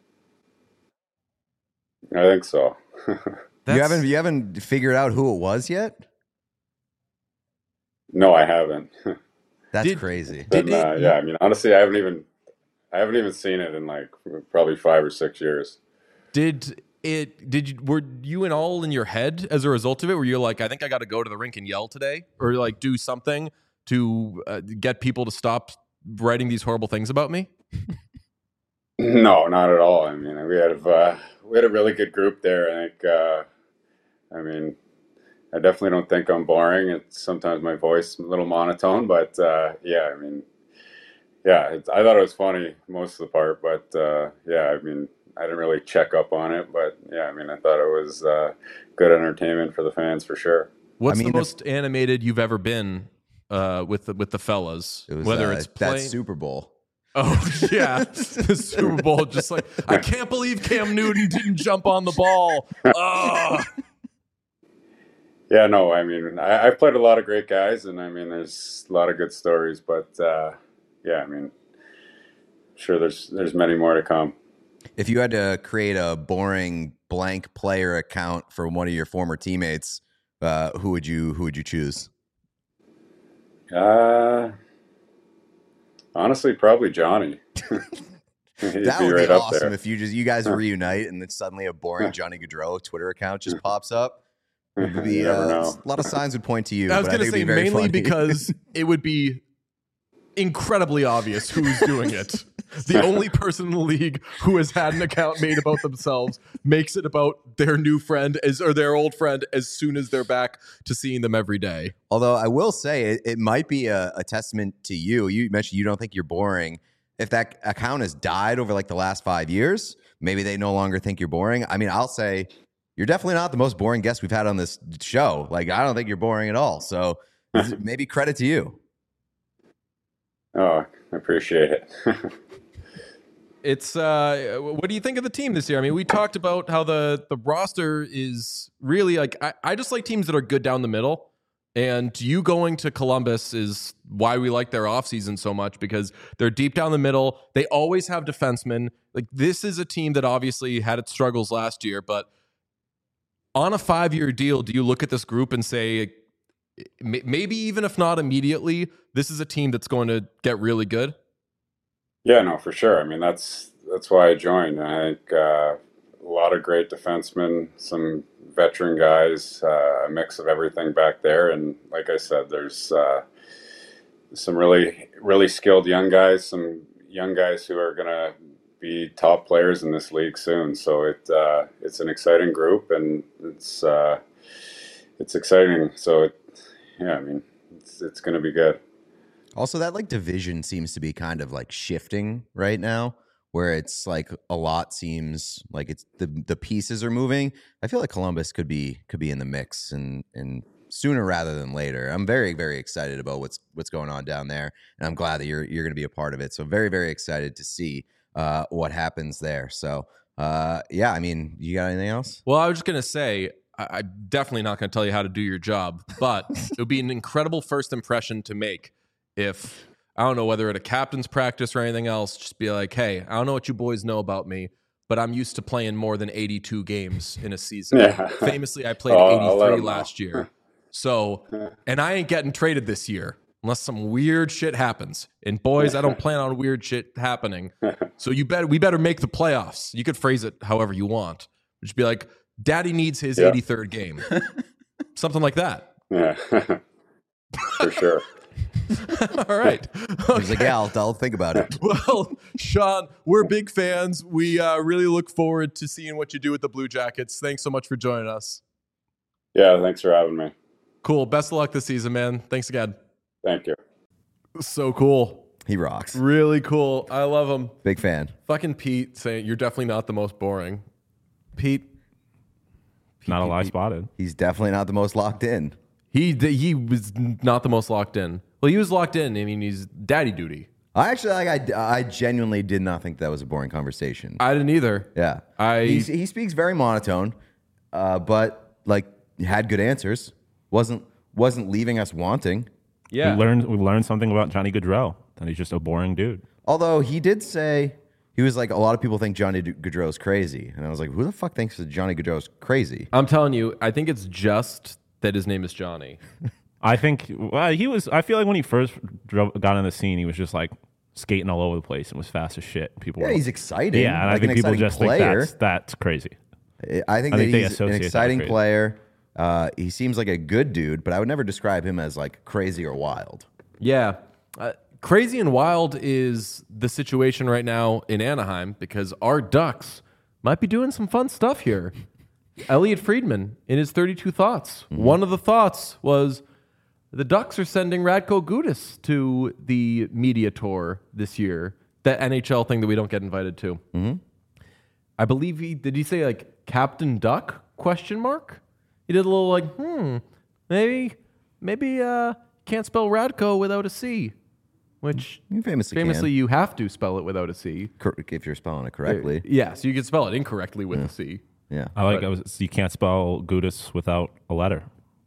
I think so. You haven't you haven't figured out who it was yet? No, I haven't. That's Did- crazy. Did And, uh, it- yeah, I mean, honestly, I haven't even I haven't even seen it in like probably five or six years. Did it? Did you? Were you and all in your head as a result of it? Were you like, I think I got to go to the rink and yell today, or like do something to uh, get people to stop writing these horrible things about me? No, not at all. I mean, we had uh, we had a really good group there. I think. Uh, I mean, I definitely don't think I'm boring. It's sometimes my voice a little monotone, but uh, yeah, I mean, yeah, it's, I thought it was funny most of the part, but uh, yeah, I mean, I didn't really check up on it, but yeah, I mean, I thought it was uh, good entertainment for the fans for sure. What's I mean, the the- most animated you've ever been uh, with the, with the fellas? It was Whether uh, it's that playing. Super Bowl. Oh yeah, the Super Bowl. Just like, I can't believe Cam Newton didn't jump on the ball. Oh. Yeah, no, I mean, I, I've played a lot of great guys, and I mean, there's a lot of good stories, but uh, yeah, I mean, sure, there's there's many more to come. If you had to create a boring blank player account for one of your former teammates, uh, who would you who would you choose? Uh, honestly, probably Johnny. He'd That be would right be up awesome there. if you just you guys reunite and then suddenly a boring Johnny Gaudreau Twitter account just pops up. It would be, You never uh, know. a lot of signs would point to you. I was but going to think say it'd be very mainly funny. because it would be incredibly obvious who's doing it. The only person in the league who has had an account made about themselves makes it about their new friend as or their old friend as soon as they're back to seeing them every day. Although I will say it, it might be a, a testament to you. You mentioned you don't think you're boring. If that account has died over like the last five years, maybe they no longer think you're boring. I mean, I'll say you're definitely not the most boring guest we've had on this show. Like, I don't think you're boring at all. So maybe credit to you. Oh, I appreciate it. It's uh, what do you think of the team this year? I mean, we talked about how the the roster is really like I, I just like teams that are good down the middle. And you going to Columbus is why we like their offseason so much, because they're deep down the middle. They always have defensemen. Like, this is a team that obviously had its struggles last year, but on a five-year deal, do you look at this group and say, maybe even if not immediately, this is a team that's going to get really good? Yeah, no, for sure. I mean, that's that's why I joined. I think uh, a lot of great defensemen, some veteran guys, uh, a mix of everything back there. And like I said, there's uh, some really, really skilled young guys, some young guys who are going to be top players in this league soon. So it uh, it's an exciting group, and it's uh, it's exciting. So it, yeah, I mean, it's it's going to be good. Also, that like division seems to be kind of like shifting right now, where it's like a lot seems like it's the the pieces are moving. I feel like Columbus could be could be in the mix and and sooner rather than later. I'm very very excited about what's what's going on down there, and I'm glad that you're you're going to be a part of it. So very very excited to see uh, what happens there. So uh, yeah, I mean, you got anything else? Well, I was just going to say, I, I'm definitely not going to tell you how to do your job, but it would be an incredible first impression to make if, I don't know, whether at a captain's practice or anything else, just be like, hey, I don't know what you boys know about me, but I'm used to playing more than eighty-two games in a season. Yeah. Famously, I played Oh, I'll let eighty-three 'em know. last year. So, and I ain't getting traded this year unless some weird shit happens. And boys, I don't plan on weird shit happening. So you better, we better make the playoffs. You could phrase it however you want. Just be like, Daddy needs his Yeah. eighty-third game. Something like that. Yeah, for sure. All right. He's like, yeah, I'll, I'll think about it. Well, Sean, we're big fans. We uh, really look forward to seeing what you do with the Blue Jackets. Thanks so much for joining us. Yeah, thanks for having me. Cool. Best of luck this season, man. Thanks again. Thank you. So cool. He rocks. Really cool. I love him. Big fan. Fucking Pete saying you're definitely not the most boring. Pete, Not a lie Pete. spotted. He's definitely not the most locked in. he he was not the most locked in. Well, he was locked in. I mean, he's daddy duty. I actually like. I, I genuinely did not think that was a boring conversation. I didn't either. Yeah, I- He's, he speaks very monotone, uh, but like had good answers. wasn't wasn't leaving us wanting. Yeah. We learned we learned something about Johnny Gaudreau. That he's just a boring dude. Although he did say he was like, a lot of people think Johnny Gaudreau's crazy, and I was like, who the fuck thinks that Johnny Gaudreau's crazy? I'm telling you, I think it's just that his name is Johnny. I think well, he was. I feel like when he first drove, got on the scene, he was just like skating all over the place and was fast as shit. People, Yeah, were, he's exciting. yeah, and like I think an people exciting just player. think that's that's crazy. I think I that think they he's associate an that with exciting crazy. player. Uh, he seems like a good dude, but I would never describe him as like crazy or wild. Yeah. Uh, crazy and wild is the situation right now in Anaheim because our Ducks might be doing some fun stuff here. Elliot Friedman, in his thirty-two thoughts, Mm-hmm. one of the thoughts was the Ducks are sending Radko Gudas to the media tour this year, that N H L thing that we don't get invited to. Mm-hmm. I believe he, did he say like Captain Duck, question mark? He did a little like, hmm, maybe, maybe uh, can't spell Radko without a C, which You famously, famously you have to spell it without a C. can, cor- if you're spelling it correctly. Yeah, so you can spell it incorrectly with a C. Yeah. I like. I was, you can't spell Gudis without a letter.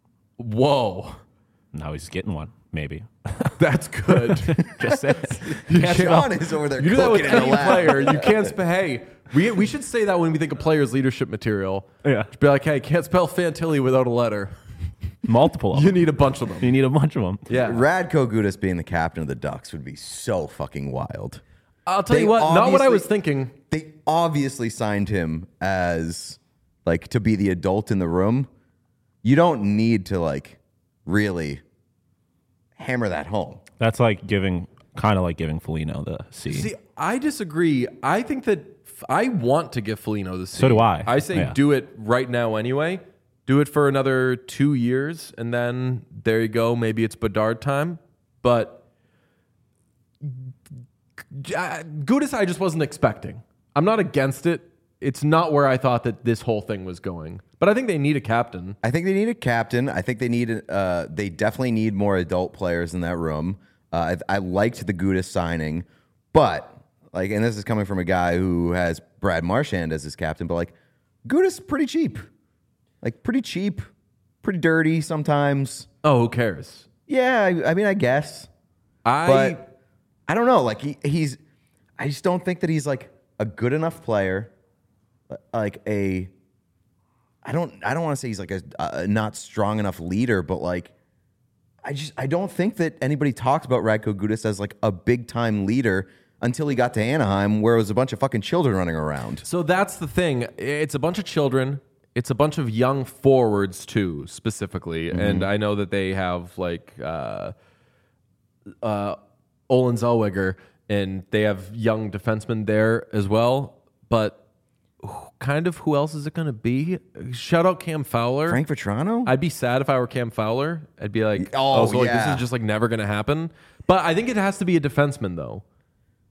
Whoa, Now he's getting one. Maybe. that's good. Just say Sean is over there You do that with cooking in the any lab. player. You can't spell. Hey, we we should say that when we think of players' leadership material. Yeah. Just be like, hey, can't spell Fantilli without a letter. multiple of You them. need a bunch of them. You need a bunch of them. Yeah. Radko Gudas being the captain of the Ducks would be so fucking wild. I'll tell They you what. Not what I obviously- was thinking. They obviously signed him as like to be the adult in the room. You don't need to like really hammer that home. That's like giving, kind of like giving Foligno the C. See, I disagree. I think that f- I want to give Foligno the C. So do I. I say Yeah. do it right now anyway. Do it for another two years, and then there you go. Maybe it's Bedard time. But uh, Gudas, I just wasn't expecting. I'm not against it. It's not where I thought that this whole thing was going. But I think they need a captain. I think they need a captain. I think they need. Uh, they definitely need more adult players in that room. Uh, I, I liked the Gudas signing, but like, and this is coming from a guy who has Brad Marchand as his captain. But like, Gudas is pretty cheap, like pretty cheap, pretty dirty sometimes. Oh, who cares? Yeah, I, I mean, I guess, I but I don't know. Like he, he's, I just don't think that he's like a good enough player, like a. I don't. I don't want to say he's like a, a not strong enough leader, but like, I just I don't think that anybody talks about Radko Gudas as like a big time leader until he got to Anaheim, where it was a bunch of fucking children running around. So that's the thing. It's a bunch of children. It's a bunch of young forwards too, specifically. Mm-hmm. And I know that they have like uh, uh, Olin Zellweger, and they have young defensemen there as well. But who- kind of who else is it going to be? Shout out Cam Fowler. Frank Vetrano? I'd be sad if I were Cam Fowler. I'd be like, Oh, oh, so like this yeah. is just like never going to happen. But I think it has to be a defenseman though.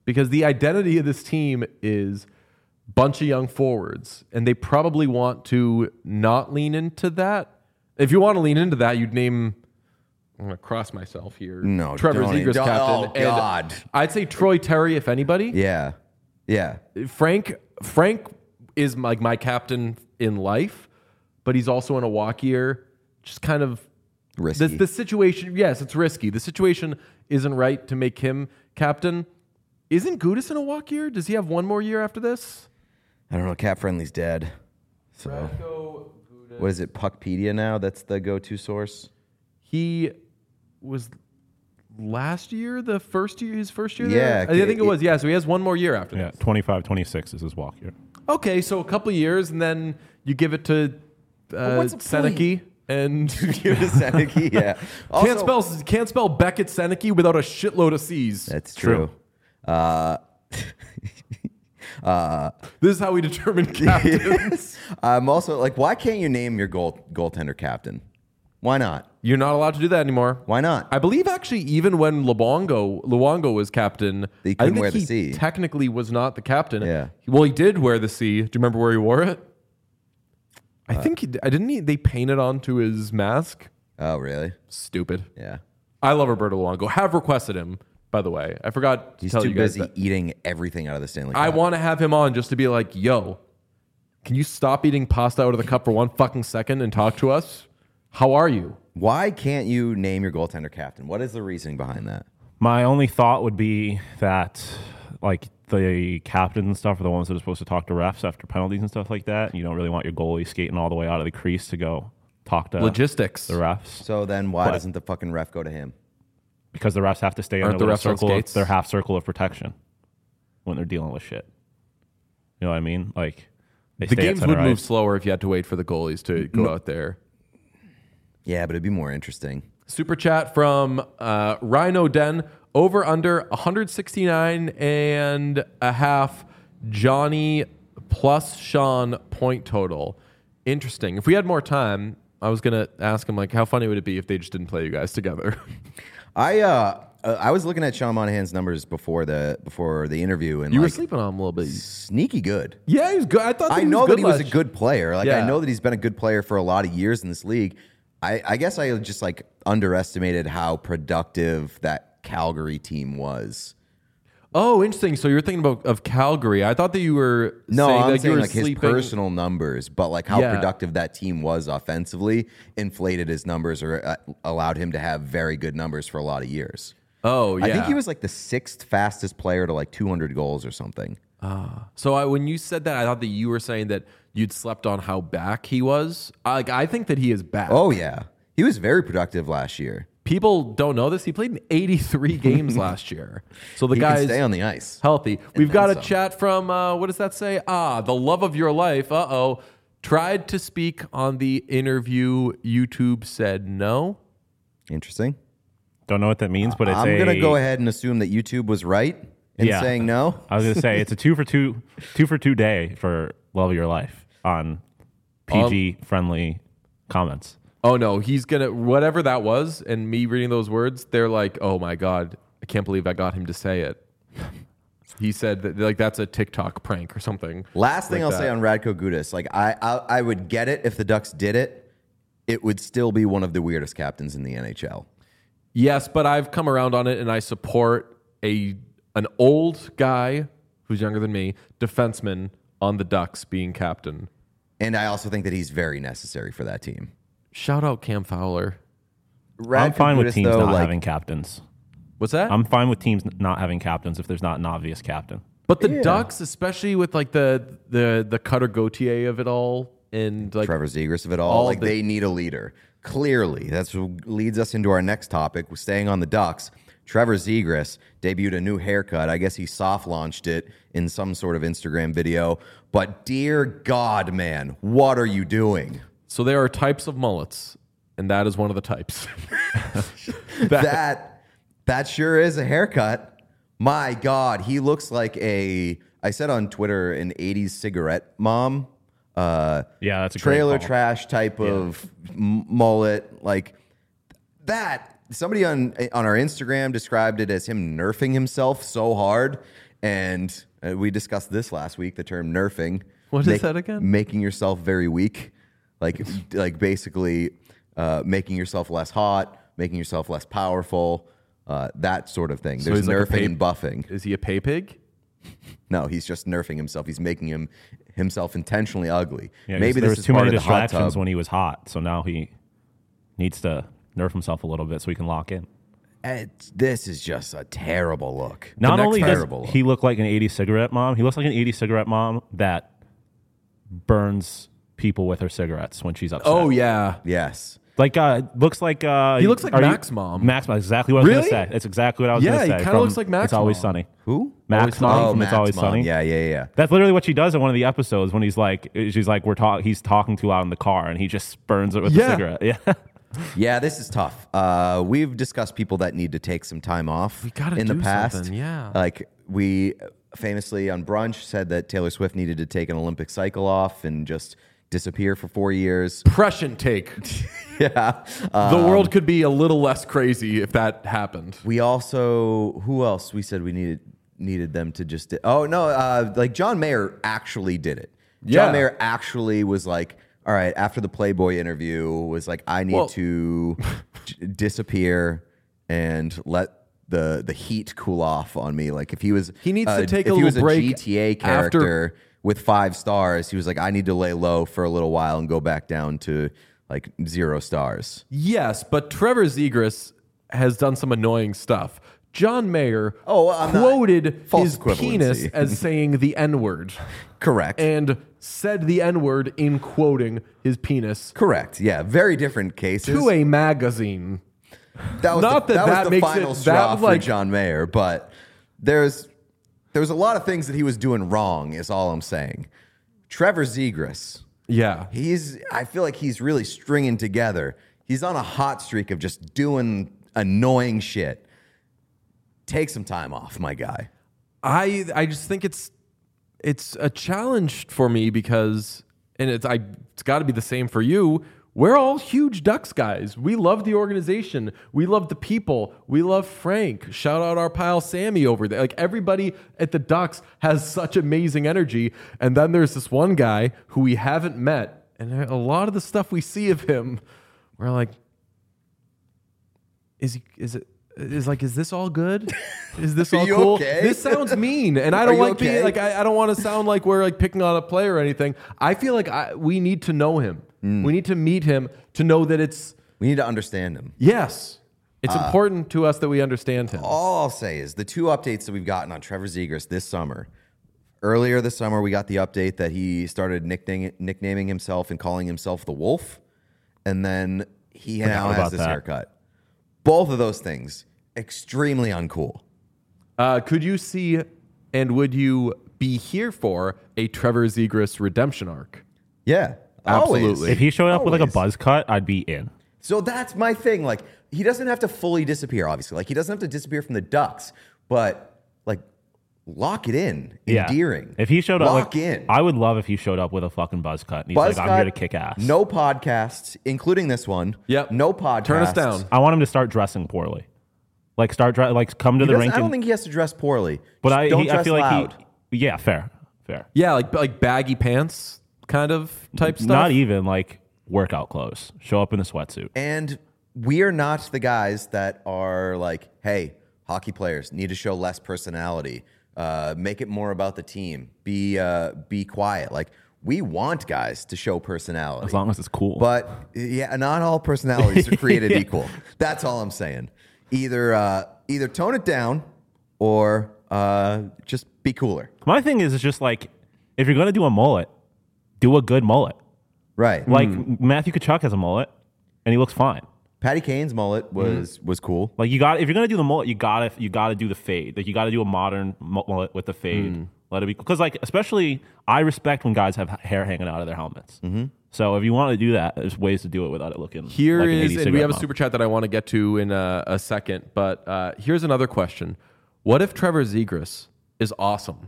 because the identity of this team is bunch of young forwards, and they probably want to not lean into that. If you want to lean into that, you'd name. I'm going to cross myself here. No, Trevor don't Zegras even- captain. oh, God. And I'd say Troy Terry, if anybody. Yeah. Yeah. Frank Frank is like my captain in life, but he's also in a walk year. Just kind of Risky. The, the situation. Yes, it's risky. The situation isn't right to make him captain. Isn't Gudas in a walk year? Does he have one more year after this? I don't know. Cap Friendly's dead. So Radko, what is it? Puckpedia now? That's the go-to source. He was last year, the first year, his first year. Yeah, there? I think it it- was. Yeah, so he has one more year after Yeah, this. twenty-five twenty-six is his walk year. Okay, so a couple of years, and then you give it to uh, what's the Seneke, and Give it to Seneke, yeah. can't Also- spell can't spell Beckett Seneke without a shitload of C's. That's true. Uh, This is how we determine captains. I'm also like, why can't you name your goal goaltender captain? Why not? You're not allowed to do that anymore. Why not? I believe actually, even when Luongo Luongo was captain, He I couldn't think wear the he C. technically was not the captain. Yeah. Well, he did wear the C. Do you remember where he wore it? I think he, I didn't. He, they painted onto his mask. Oh, really? Stupid. Yeah. I love Roberto Luongo. Have requested him, by the way. I forgot to He's tell too you guys busy that. eating everything out of the Stanley Cup. I want to have him on just to be like, yo, can you stop eating pasta out of the cup for one fucking second and talk to us? How are you? Why can't you name your goaltender captain? What is the reasoning behind that? My only thought would be that, like, the captains and stuff are the ones that are supposed to talk to refs after penalties and stuff like that. And you don't really want your goalie skating all the way out of the crease to go talk to Logistics. the refs. So then why But- doesn't the fucking ref go to him? Because the refs have to stay in Aren't their the little refs on circle of, skates? their half circle of protection when they're dealing with shit. You know what I mean? Like, they The stay at games center would move ice. slower if you had to wait for the goalies to go out there. Yeah, but it'd be more interesting. Super chat from uh, Rhino Den. Over under one sixty-nine and a half Johnny plus Sean point total. Interesting. If we had more time, I was going to ask him, like, how funny would it be if they just didn't play you guys together? I uh, uh, I was looking at Sean Monahan's numbers before the before the interview, and You were like, sleeping on him a little bit. sneaky good. Yeah, he was good. I thought that I he know was that good he was a last- good player. Like Yeah. I know that he's been a good player for a lot of years in this league. I, I guess I just like underestimated how productive that Calgary team was. Oh, interesting. So you're thinking about of Calgary. I thought that you were No, saying I'm like you saying were like his sleeping. personal numbers, but like how Yeah. productive that team was offensively inflated his numbers or uh, allowed him to have very good numbers for a lot of years. Oh, yeah. I think he was like the sixth fastest player to like two hundred goals or something. So I, when you said that, I thought that you were saying that you'd slept on how back he was. I- Like I think that he is back. Oh yeah, he was very productive last year. People don't know this. He played in eighty-three games last year. So the He guy's can stay on the ice. healthy. We've got a some. chat from, uh, what does that say? Ah, the love of your life. Uh-oh. Tried to speak on the interview. YouTube said no. Interesting. Don't know what that means, but it's I'm a, gonna go ahead and assume that YouTube was right in Yeah. saying no. I was gonna say it's a two for two, two for two day for Love of Your Life on P G friendly comments. Oh, no. He's going to, whatever that was, and me reading those words, they're like, oh, my God. I can't believe I got him to say it. He said that, like, that's a TikTok prank or something. Last thing like I'll say that. on Radko Gudas, like I, I I would get it if the Ducks did it. It would still be one of the weirdest captains in the N H L. Yes, but I've come around on it, and I support a an old guy who's younger than me, defenseman on the Ducks being captain. And I also think that he's very necessary for that team. Shout out Cam Fowler. Radko I'm fine with Gudas, teams though, not like, having captains. What's that? I'm fine with teams not having captains if there's not an obvious captain. but the Ducks, especially with like the the the Cutter Gauthier of it all, and like Trevor Zegras of it all. all like the- they need a leader. Clearly, that's what leads us into our next topic. We're staying on the Ducks. Trevor Zegras debuted a new haircut. I guess he soft launched it in some sort of Instagram video. But dear God, man, what are you doing? so there are types of mullets, and that is one of the types. that that sure is a haircut. My God, he looks like a. I said on Twitter, an eighties cigarette mom. Uh, Yeah, that's a great trailer call. trash type of m- mullet. Like that. Somebody on on our Instagram described it as him nerfing himself so hard. And uh, we discussed this last week, the term nerfing. What is that again? Making yourself very weak. Like, like basically uh, making yourself less hot, making yourself less powerful, uh, that sort of thing. So There's he's like a nerfing pay- and buffing. Is he a pay pig? No, he's just nerfing himself. He's making him himself intentionally ugly. Yeah, Maybe there this was is too part many of the hot distractions tub. when he was hot, so now he needs to nerf himself a little bit so he can lock in. It's, this is just a terrible look. Not The only next does terrible look. he look like an eighties cigarette mom, he looks like an eighties cigarette mom that burns people with her cigarettes when she's upset. Oh yeah. Yes. Like, uh, looks like... Uh, He looks like are you- Mac's mom. Mac's mom, exactly what I was Really? going to say. It's exactly what I was Yeah, going to he say. kinda from looks like Mac's It's Always mom. Sunny. Who? Mac's mom Oh, from Mac's It's Always mom. Sunny. Yeah, yeah, yeah. That's literally what she does in one of the episodes when he's like, she's like, we're talking, he's talking too loud in the car and he just burns it with Yeah. a cigarette. Yeah. Yeah, this is tough. Uh, we've discussed people that need to take some time off We gotta in the do past. something, yeah. Like we famously on Brunch said that Taylor Swift needed to take an Olympic cycle off and just disappear for four years. Prescient take. Yeah. The Um, world could be a little less crazy if that happened. We also, who else? We said we needed needed them to just. Oh no, uh, like John Mayer actually did it. John Yeah. Mayer actually was like, all right, after the Playboy interview, was like, I need Well- to j- disappear and let the the heat cool off on me. Like if he was, He needs uh, to take a if he little was break a G T A after- character with five stars, he was like, I need to lay low for a little while and go back down to like zero stars. Yes, but Trevor Zegras has done some annoying stuff. John Mayer Oh, I'm not- quoted false his penis equivalency. as saying the N-word Correct. and said the N-word in quoting his penis Correct. Yeah. Very different cases. to a magazine. That was Not the, that that, that was the makes final it- straw that, for like- John Mayer, but there's there was a lot of things that he was doing wrong. Is all I'm saying. Trevor Zegras, Yeah. he's I feel like he's really stringing together. He's on a hot streak of just doing annoying shit. Take some time off, my guy. I I just think it's it's a challenge for me because and it's I it's got to be the same for you. We're all huge Ducks guys. We love the organization. We love the people. We love Frank. Shout out our pal Sammy over there. Like everybody at the Ducks has such amazing energy. And then there's this one guy who we haven't met, and a lot of the stuff we see of him, we're like, is he? Is it? Is like, is this all good? Is this Are all you cool? okay? This sounds mean, and I Are don't you like okay? being like. I, I don't want to sound like we're like picking on a player or anything. I feel like I, we need to know him. Mm. We need to meet him to know that it's We need to understand him. yes. It's Uh, important to us that we understand him. All I'll say is the two updates that we've gotten on Trevor Zegras this summer. Earlier this summer, we got the update that he started nicknaming, nicknaming himself and calling himself the Wolf, and then he now about has this that. haircut. Both of those things extremely uncool. Uh, could you see and would you be here for a Trevor Zegras redemption arc? Yeah, Absolutely. always. If he showed up with like a Always. buzz cut, I'd be in. So that's my thing. Like, he doesn't have to fully disappear, obviously. Like, he doesn't have to disappear from the Ducks, but like, lock it in. Yeah. Endearing. If he showed up, lock like, in. I would love if he showed up with a fucking buzz cut. And he's Buzz like, I'm cut, here to kick ass. No podcasts, including this one. Yep. No podcasts. Turn us down. I want him to start dressing poorly. Like start dre- like come to He the doesn't- rink. I don't and, think he has to dress poorly. but Just I, don't he, dress I feel like loud. he. Yeah, fair, fair. Yeah, like like baggy pants kind of type stuff. Not even like workout clothes. Show up in a sweatsuit. And we are not the guys that are like, hey, hockey players need to show less personality. Uh, make it more about the team. Be uh, be quiet. Like, we want guys to show personality. As long as it's cool. But yeah, not all personalities are created equal. That's all I'm saying. Either uh, either tone it down or uh, just be cooler. My thing is, it's just like if you're gonna do a mullet, do a good mullet. Right. Like Matthew Tkachuk has a mullet, and he looks fine. Patty Kane's mullet was was cool. Like you got, if you're gonna do the mullet, you gotta you gotta do the fade. Like you gotta do a modern mullet with the fade. Let it be, because like especially I respect when guys have hair hanging out of their helmets. Mm-hmm. So if you want to do that, there's ways to do it without it looking. Here like an is, eighties and we have a cigarette super chat that I want to get to in a, a second. But uh, here's another question: what if Trevor Zegras is awesome?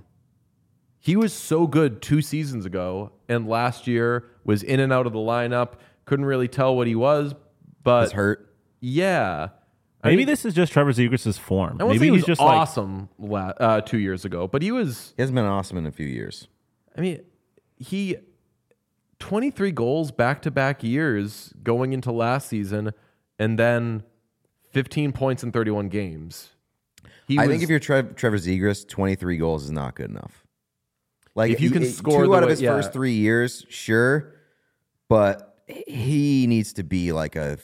He was so good two seasons ago, and last year was in and out of the lineup. Couldn't really tell what he was, but Was hurt. yeah. Maybe mean, this is just Trevor Zegras' form. I won't Maybe say he he's was just like awesome la- uh, two years ago, but he was. He hasn't been awesome in a few years. I mean, he twenty-three goals back to back years going into last season, and then fifteen points in thirty-one games. He I was, think if you're Trev- Trevor Zegras, twenty-three goals is not good enough. Like If you can he- score two the out of way- his yeah. first three years, sure, but he needs to be like a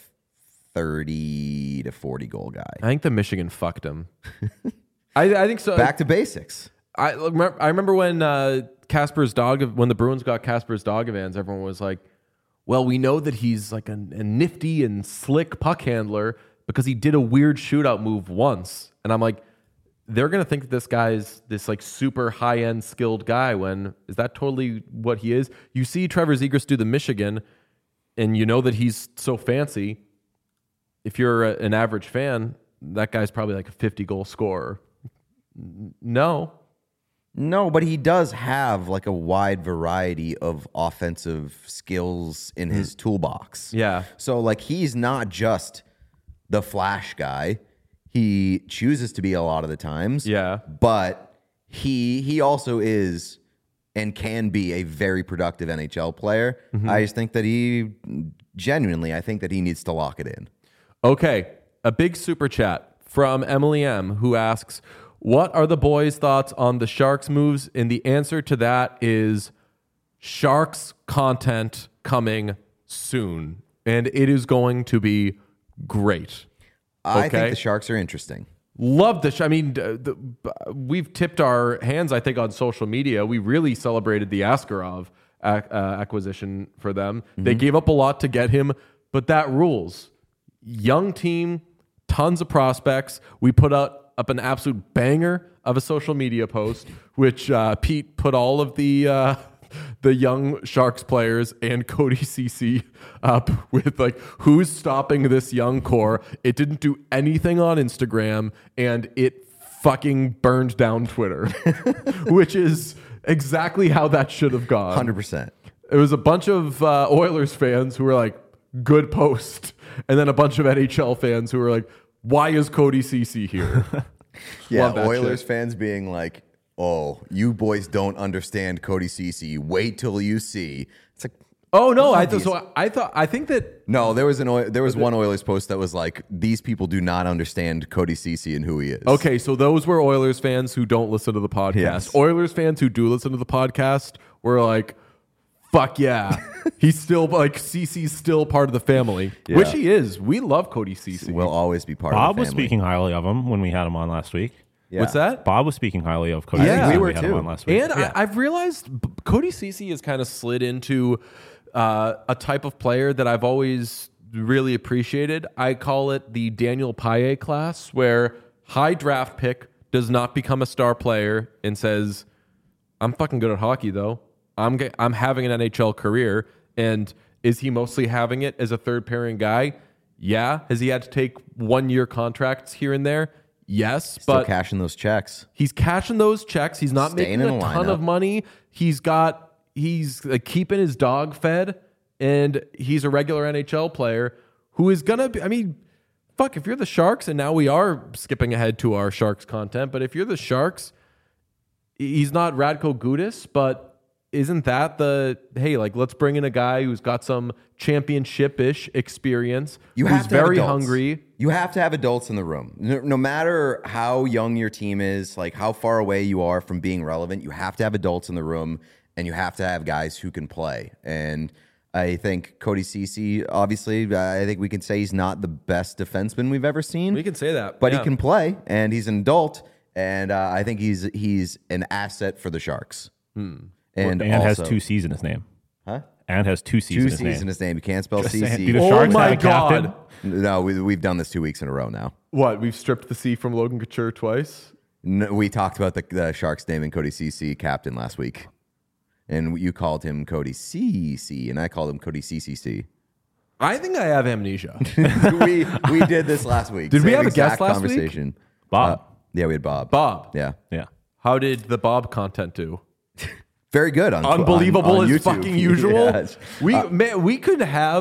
thirty to forty goal guy. I think the Michigan fucked him. I, I think so. Back to basics. I remember, I remember when uh, Kasper's dog, when the Bruins got Kasper's Dogevans, everyone was like, well, we know that he's like a, a nifty and slick puck handler because he did a weird shootout move once. And I'm like, they're going to think that this guy's this like super high-end skilled guy when is that totally what he is? You see Trevor Zegras do the Michigan and you know that he's so fancy. If you're a, an average fan, that guy's probably like a fifty goal scorer. No. No, but he does have like a wide variety of offensive skills in his toolbox. Yeah. So like he's not just the flash guy. He chooses to be a lot of the times. Yeah. But he he also is and can be a very productive N H L player. I just think that he genuinely, I think that he needs to lock it in. Okay, a big super chat from Emily M, who asks, what are the boys' thoughts on the Sharks moves? And the answer to that is Sharks content coming soon. And it is going to be great. I Okay. think the Sharks are interesting. Love the. Sh- I mean, d- the, we've tipped our hands, I think, on social media. We really celebrated the Askarov ac- uh, acquisition for them. They gave up a lot to get him, but that rules. Young team, tons of prospects. We put out up an absolute banger of a social media post, which uh, Pete put all of the uh, the young Sharks players and Cody Ceci up with like, who's stopping this young core? It didn't do anything on Instagram, and it fucking burned down Twitter, which is exactly how that should have gone. one hundred percent. It was a bunch of uh, Oilers fans who were like, good post. And then a bunch of N H L fans who were like, why is Cody Ceci here? Yeah, Love that Oilers shit. fans being like, oh, you boys don't understand Cody Ceci. Wait till you see. It's like, Oh no! I th- Obvious. so I thought I think that no, there was an Oil- there was one Oilers post that was like, these people do not understand Cody Ceci and who he is. okay. So those were Oilers fans who don't listen to the podcast. Yes. Oilers fans who do listen to the podcast were like, "Fuck yeah, he's still like Ceci's still part of the family, Yeah. which he is. We love Cody Ceci. will always be part Bob of the was family. speaking highly of him when we had him on last week. Yeah. What's that? Bob was speaking highly of Cody. Yeah. Ceci we when were had him too. on last week. And Yeah. I, I've realized B- Cody Ceci has kind of slid into uh, a type of player that I've always really appreciated. I call it the Daniel Paille class, where high draft pick does not become a star player and says, "I'm fucking good at hockey, though. I'm ge- I'm having an N H L career." And is he mostly having it as a third pairing guy? Yeah. Has he had to take one year contracts here and there? Yes, Still but cashing those checks. he's cashing those checks. He's not Staying making in a the ton lineup. of money. He's got he's like, keeping his dog fed, and he's a regular N H L player who is gonna be. I mean, fuck, if you're the Sharks, and now we are skipping ahead to our Sharks content, but if you're the Sharks, he's not Radko Gudas, but isn't that the hey, like let's bring in a guy who's got some championship-ish experience, You who's have to have very adults. hungry. You have to have adults in the room. No, no matter how young your team is, like how far away you are from being relevant, you have to have adults in the room, and you have to have guys who can play. And I think Cody Ceci, obviously, I think we can say he's not the best defenseman we've ever seen. We can say that, but yeah. he can play, and he's an adult, and uh, I think he's he's an asset for the Sharks. And, and also, has two C's in his name. huh? And has two C's Two in his C's name. in his name. You can't spell Just saying. C C. Do the Oh Sharks my have a captain? God. No, we, we've done this two weeks in a row now. What, we've stripped the C from Logan Couture twice? No, we talked about the, the Sharks naming Cody Ceci captain last week, and you called him Cody C C, and I called him Cody C C C. I think I have amnesia. we we did this last week. Did we Same have a guest exact last week? conversation. Bob. Uh, yeah, we had Bob. Bob. Yeah, Yeah. How did the Bob content do? very good. On, Unbelievable on, on as YouTube. fucking usual. Yeah. We Uh, man, we could have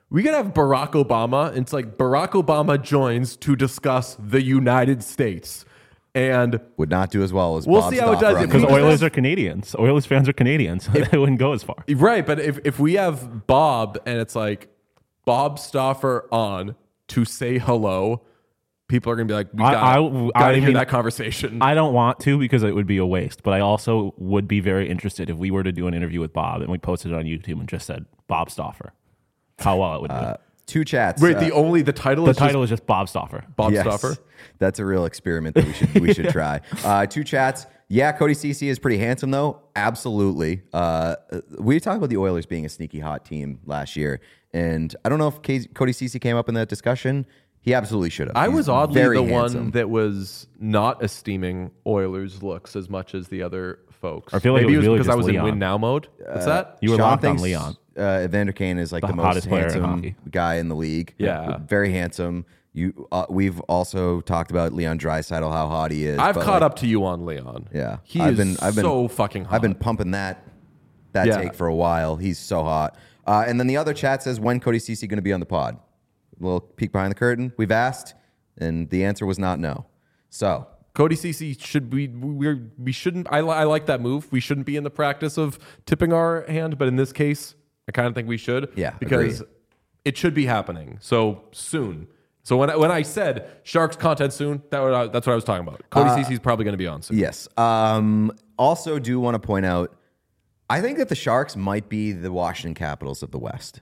We could have Barack Obama. And it's like Barack Obama joins to discuss the United States. And Would not do as well as We'll Bob see how it Stauffer does. on If the Because we- Oilers are Canadians. Oilers fans are Canadians. They wouldn't go as far. right, but if, if we have Bob and it's like Bob Stauffer on to say hello, people are gonna be like, we I- gotta, I- gotta I hear mean, that conversation. I don't want to because it would be a waste, but I also would be very interested if we were to do an interview with Bob and we posted it on YouTube and just said Bob Stauffer. How well it would do. Two chats. Wait, uh, the only the title The is title just is just Bob Stauffer. Bob yes, Stauffer. That's a real experiment that we should we should try. Uh, two chats. Yeah, Cody Ceci is pretty handsome though. Absolutely. Uh, we talked about the Oilers being a sneaky hot team last year, and I don't know if K- Cody Ceci came up in that discussion. He absolutely should have. I He's was oddly very the handsome. one that was not esteeming Oilers' looks as much as the other folks. I feel like it Maybe was really because I just was Leon. in win now mode. What's that? You were Sean locked on thinks, Leon. Uh, Evander Kane is like The the, most hottest player in handsome hockey. guy in the league. Yeah. very handsome. You, uh, we've also talked about Leon Draisaitl, how hot he is. I've but, caught like, up to you on Leon. Yeah, he I've is been, I've been, so fucking hot. I've been pumping that that Yeah. take for a while. He's so hot. Uh, and then the other chat says, when Cody Ceci going to be on the pod? A little peek behind the curtain. We've asked, and the answer was not no. So Cody Ceci should be we we shouldn't. I, li- I like that move. We shouldn't be in the practice of tipping our hand, but in this case, I kind of think we should. Yeah, because agreed. it should be happening so soon. So when I, when I said Sharks content soon, that what I, that's what I was talking about. Cody Ceci is probably going to be on soon. yes. Um, also, do want to point out, I think that the Sharks might be the Washington Capitals of the West.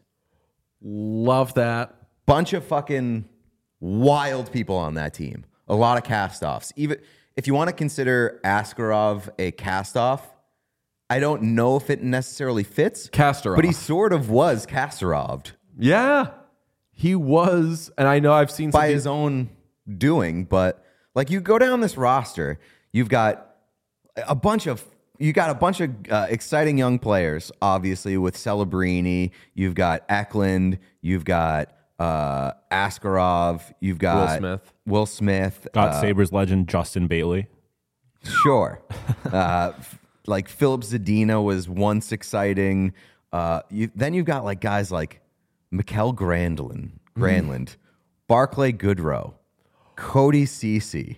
Love that. Bunch of fucking wild people on that team. A lot of cast-offs. Even if you want to consider Askarov a cast-off, I don't know if it necessarily fits. Kasparov. But he sort of was Kastaroved Yeah, he was, and I know I've seen some by people- his own doing. But like, you go down this roster, you've got a bunch of you got a bunch of uh, exciting young players. Obviously, with Celebrini, you've got Eklund, you've got uh, Askarov, you've got Will Smith. Will Smith, Got uh, Sabres legend Justin Bailey. Sure. uh, f- like Philip Zadina was once exciting. Uh, you, then you've got like guys like Mikkel Granlund, Granlund, Barclay Goodrow, Cody Ceci.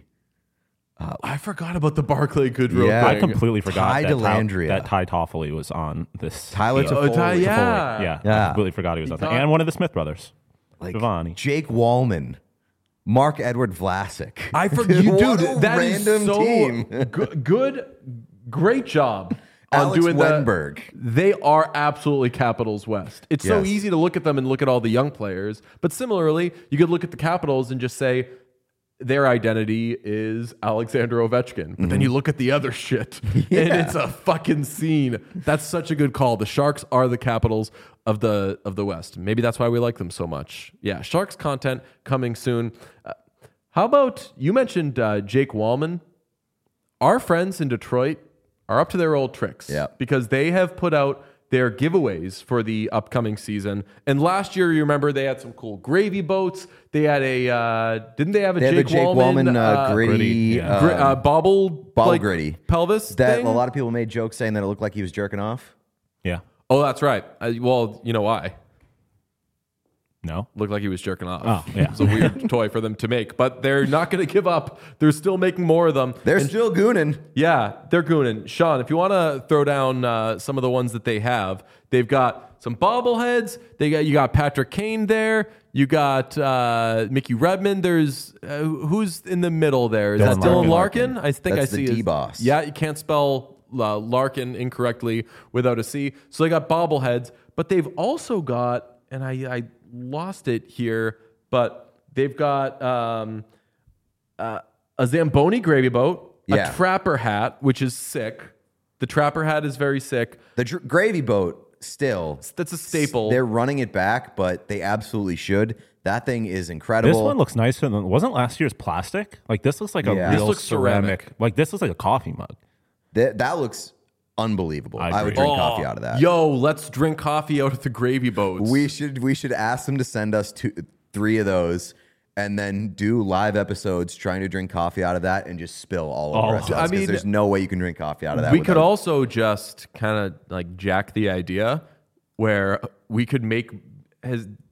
I forgot about the Barclay Goodrow Yeah. I thing. completely forgot Ty that, Ty, Dellandrea. that Ty Toffoli was on this. Tyler team. Toffoli. Oh, Ty- yeah. Yeah, Yeah. I completely forgot he was on that. thought- And one of the Smith brothers. Like Giovanni. Jake Wallman, Mark Edward Vlasic. I forgot, you What dude. a That is random so team. good, good, great job on Alex doing that. Wenberg. They are absolutely Capitals West. It's so Yes. easy to look at them and look at all the young players, but similarly, you could look at the Capitals and just say their identity is Alexander Ovechkin. But then you look at the other shit, and it's a fucking scene. That's such a good call. The Sharks are the Capitals of the of the West. Maybe that's why we like them so much. Yeah, Sharks content coming soon. Uh, how about you mentioned uh, Jake Wallman? Our friends in Detroit are up to their old tricks. Yeah. Because they have put out their giveaways for the upcoming season. And last year, you remember, they had some cool gravy boats. They had a, uh, didn't they have a They had Jake the Jake Wallman, Wallman uh, gritty, gritty, yeah. gri- um, uh, bobble, bobble like, gritty. pelvis that thing? a lot of people made jokes saying that it looked like he was jerking off. Yeah. Oh, that's right. Uh, well, you know why? No. Looked like he was jerking off. Oh, yeah. It's a weird toy for them to make, but they're not going to give up. They're still making more of them. They're And- still gooning. Yeah, they're gooning. Sean, if you want to throw down uh, some of the ones that they have, they've got some bobbleheads. They got you got Patrick Kane there. You got uh, Mickey Redmond. There's uh, who's in the middle there? Is Dylan that Dylan Larkin. Larkin? I think That's I see the his- D-boss. Yeah, you can't spell uh, Larkin incorrectly without a C. So they got bobbleheads, but they've also got, and I, I lost it here, but they've got um, uh, a Zamboni gravy boat, Yeah. a trapper hat, which is sick. The trapper hat is very sick. The dr- gravy boat still. That's a staple. They're running it back, but they absolutely should. That thing is incredible. This one looks nicer than wasn't last year's plastic. Like this looks like a Yeah. real This looks ceramic. Like this looks like a coffee mug. That, that looks unbelievable. I I, would agree. drink Oh, coffee out of that. Yo, let's drink coffee out of the gravy boats. We should we should ask them to send us two, three of those, and then do live episodes trying to drink coffee out of that and just spill all over Oh. ourselves. I 'cause mean, there's no way you can drink coffee out of that. we could without- also just kind of like jack the idea where we could make has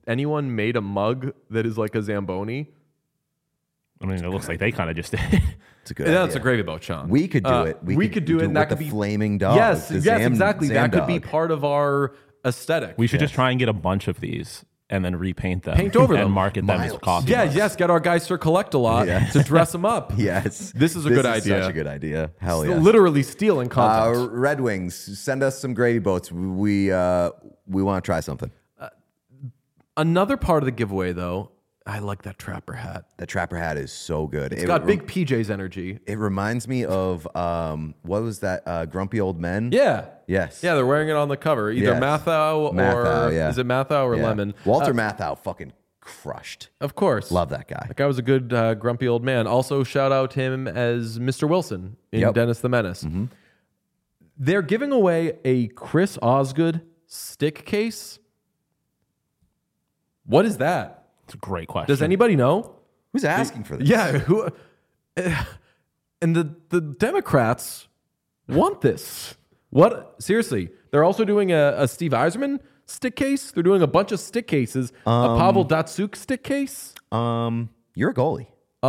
anyone made a mug that is like a Zamboni? I mean, it looks like they kind of just did. It's a good Yeah, idea. that's a gravy boat, Sean. We could do Uh, it. We, could do it, and with that the could be flaming dog. Yes, the yes, Zam- exactly. Zam That could be dog. part of our aesthetic. We should just try and get a bunch of these and then repaint them. Paint over and them. market them as Miles. coffee Yeah, mugs. yes. Get our guys to collect a lot Yes. to dress them up. Yes, This is a good idea. Such a good idea. Hell It's yeah. Literally stealing Uh, content. Red Wings, send us some gravy boats. We uh, we want to try something. Another part of the giveaway, though, I like that trapper hat. The Trapper hat is so good. It's it got re- big P J's energy. It reminds me of um, what was that? Uh, Grumpy Old Men. Yeah. Yes. Yeah, they're wearing it on the cover. Either Yes. Mathau or Mathau, yeah. is it Mathau or Yeah. Lemon? Walter Uh, Matthau fucking crushed. Of course. Love that guy. That guy was a good uh, grumpy old man. Also, shout out him as Mister Wilson in Yep. Dennis the Menace. They're giving away a Chris Osgood stick case. What is that? It's a great question. Does anybody know? Who's asking for this? Yeah, who? And the the Democrats want this. What? Seriously, they're also doing a, a Steve Eiserman stick case. They're doing a bunch of stick cases. a Pavel Datsuk stick case. Um, you're a goalie.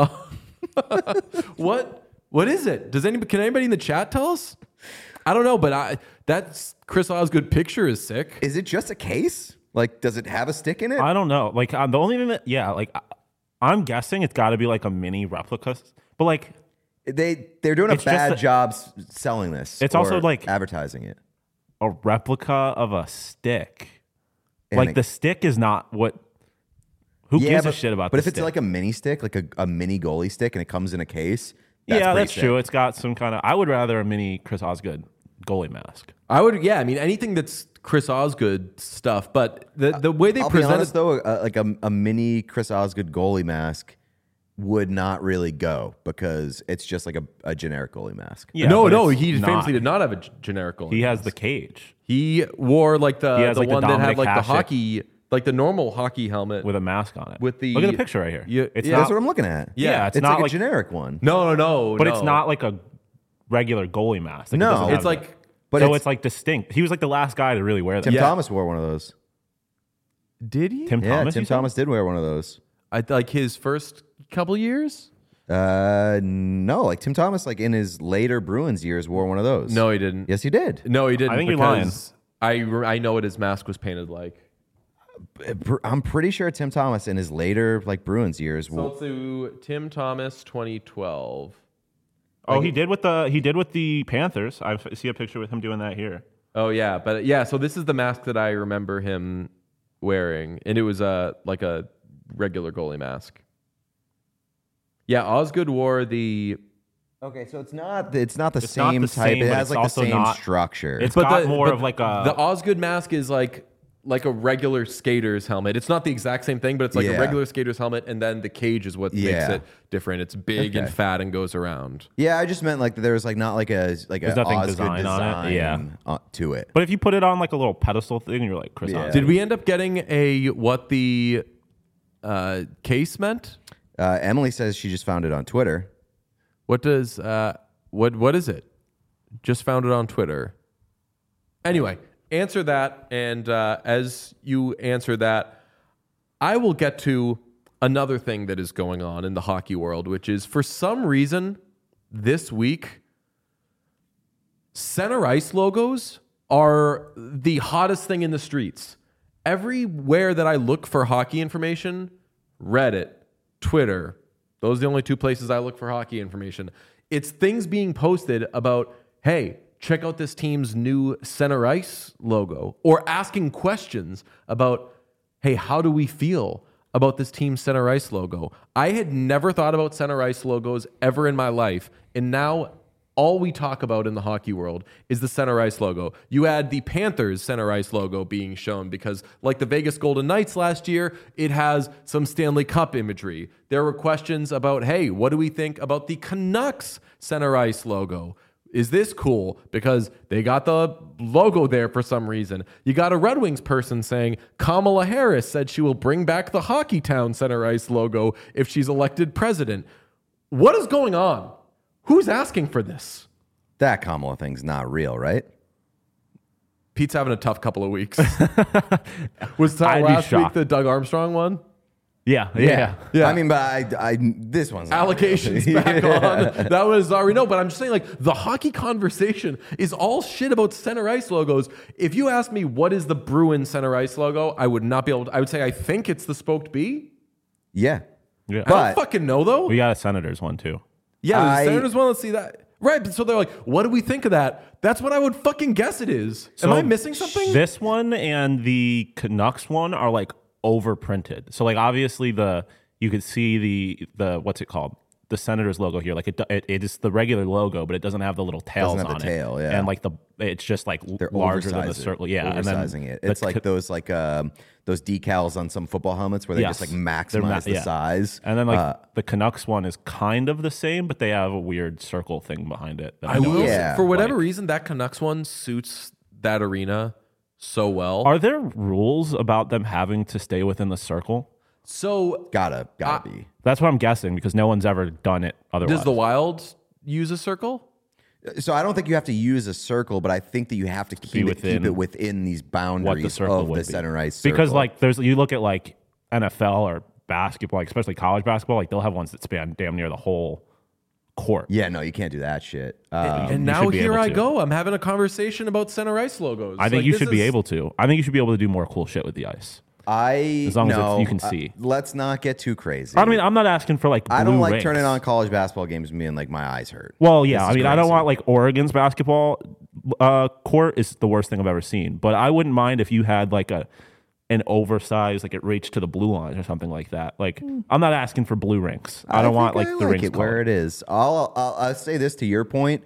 What? What is it? Does anybody? Can anybody in the chat tell us? I don't know, but I that Chris Osgood picture is sick. Is it just a case? Like, does it have a stick in it? I don't know. Like uh, the only thing that, yeah, like I, I'm guessing it's got to be like a mini replica. But like, they they're doing a It's just bad a- job s- selling this. It's or also, like- advertising it. a replica of a stick. And like it- the stick is not what. Who gives but, a shit about? But the if it's stick? like a mini stick, like a, a mini goalie stick, and it comes in a case, that's yeah, pretty that's sick. true. It's got some kind of. I would rather a mini Chris Osgood goalie mask. I would, yeah. I mean, anything that's Chris Osgood stuff, but the the way they I'll be present honest it, though, uh, like a, a mini Chris Osgood goalie mask would not really go because it's just like a, a generic goalie mask. Yeah, no, but no, it's he not. famously did not have a g- generic goalie. He has the cage He wore like the He has, the like, the one that had Dominic like the Hasek hockey, like the normal hockey helmet. with a mask on it. With the- look at the picture right here. Yeah, it's yeah. not. That's what I'm looking at. yeah, it's, It's, not like, like, a generic one. no, no, no, but no. it's not like a regular goalie mask. Like, it No. doesn't have It's like, the- But so it's- it's, like distinct. He was like the last guy to really wear that. Tim Yeah. Thomas wore one of those. did he? Tim Yeah, Thomas. Tim you said? Thomas did wear one of those. I like his first couple years. Uh, no, like Tim Thomas, like in his later Bruins years, wore one of those. No, he didn't. Yes, he did. No, he didn't. I think you're lying. because I re- I know what his mask was painted like. I'm pretty sure Tim Thomas in his later like Bruins years. So wo- let's do Tim Thomas, twenty twelve. Oh, he did with the he did with the Panthers. I f- see a picture with him doing that here. Oh yeah, but yeah. So this is the mask that I remember him wearing, and it was a like a regular goalie mask. Yeah, Osgood wore the. Okay, so it's not it's not the It's not same the type. same, it but has it's like the also same not- structure. It's got more the, of like a the Osgood mask is like like a regular skater's helmet. It's not the exact same thing, but it's like Yeah. a regular skater's helmet, and then the cage is what makes Yeah. it different. It's big and Okay. fat and goes around. yeah, I just meant like there was like not like a like a There's nothing Osgood design design, on it. Yeah. uh, to it. But if you put it on like a little pedestal thing, you're like Chris. Yeah. Osgood. Did we end up getting a what the uh, case meant? Uh, Emily says she just found it on Twitter. What does uh, what what is it? Just found it on Twitter. Anyway, answer that, and uh, as you answer that, I will get to another thing that is going on in the hockey world, which is for some reason this week, center ice logos are the hottest thing in the streets. Everywhere that I look for hockey information, Reddit, Twitter, those are the only two places I look for hockey information. It's things being posted about, hey, check out this team's new center ice logo, or asking questions about, hey, how do we feel about this team's center ice logo? I had never thought about center ice logos ever in my life, and now all we talk about in the hockey world is the center ice logo. You add the Panthers center ice logo being shown because, like the Vegas Golden Knights last year, it has some Stanley Cup imagery. There were questions about, hey, what do we think about the Canucks center ice logo? Is this cool? Because they got the logo there for some reason. You got a Red Wings person saying Kamala Harris said she will bring back the Hockey Town center ice logo if she's elected president. What is going on? Who's asking for this? That Kamala thing's not real, right? Pete's having a tough couple of weeks. Was I'd that be last week shocked. the Doug Armstrong one? Yeah, yeah, yeah. Yeah. I mean, but I, I this one's not Allocations really. back on. That was already no, but I'm just saying, like, the hockey conversation is all shit about center ice logos. If you ask me what is the Bruins center ice logo, I would not be able to. I would say I think it's the spoked B. Yeah. Yeah. I But- don't fucking know though. We got a Senators one too. Yeah, the I- Senators want to see that. Right, so they're like, what do we think of that? That's what I would fucking guess it is. Am So I missing something? This one and the Canucks one are like overprinted. So like obviously the you could see the the what's it called? The Senators logo here. Like it it, it is the regular logo, but it doesn't have the little tails Doesn't have on the tail, it. yeah. And like the it's just like They're larger than the oversizing it. circle. Yeah, and oversizing then it. the It's like Ca- those like um, those decals on some football helmets where they Yes. just like They're maximize ma- the yeah. size. And then like Uh, the Canucks one is kind of the same, but they have a weird circle thing behind it. that I will. don't Yeah. For whatever like. reason, that Canucks one suits that arena so well. Are there rules about them having to stay within the circle? so gotta gotta Uh, be. That's what I'm guessing because no one's ever done it otherwise. does the Wild use a circle? So I don't think you have to use a circle, but I think that you have to keep, it, within keep it within these what boundaries the circle of would the be. center ice circle. Because like there's you look at like N F L or basketball, like especially college basketball, like they'll have ones that span damn near the whole court. yeah, no, you can't do that shit. Uh, and you now should be here able I to. go. I'm having a conversation about center ice logos. I think Like, you this should be is- able to. I think you should be able to do more cool shit with the ice. I As long as it's- no, you can uh, see. let's not get too crazy. I mean, I'm not asking for like. I don't blue like rings. turning on college basketball games and being like my eyes hurt. Well, yeah. This I is mean, I don't crazy. want like Oregon's basketball uh, court is the worst thing I've ever seen. But I wouldn't mind if you had like a an oversized, like it reached to the blue line or something like that. Like I'm not asking for blue rings. I don't want think like I the like rings it where colored. it is. I'll, I'll I'll say this to your point.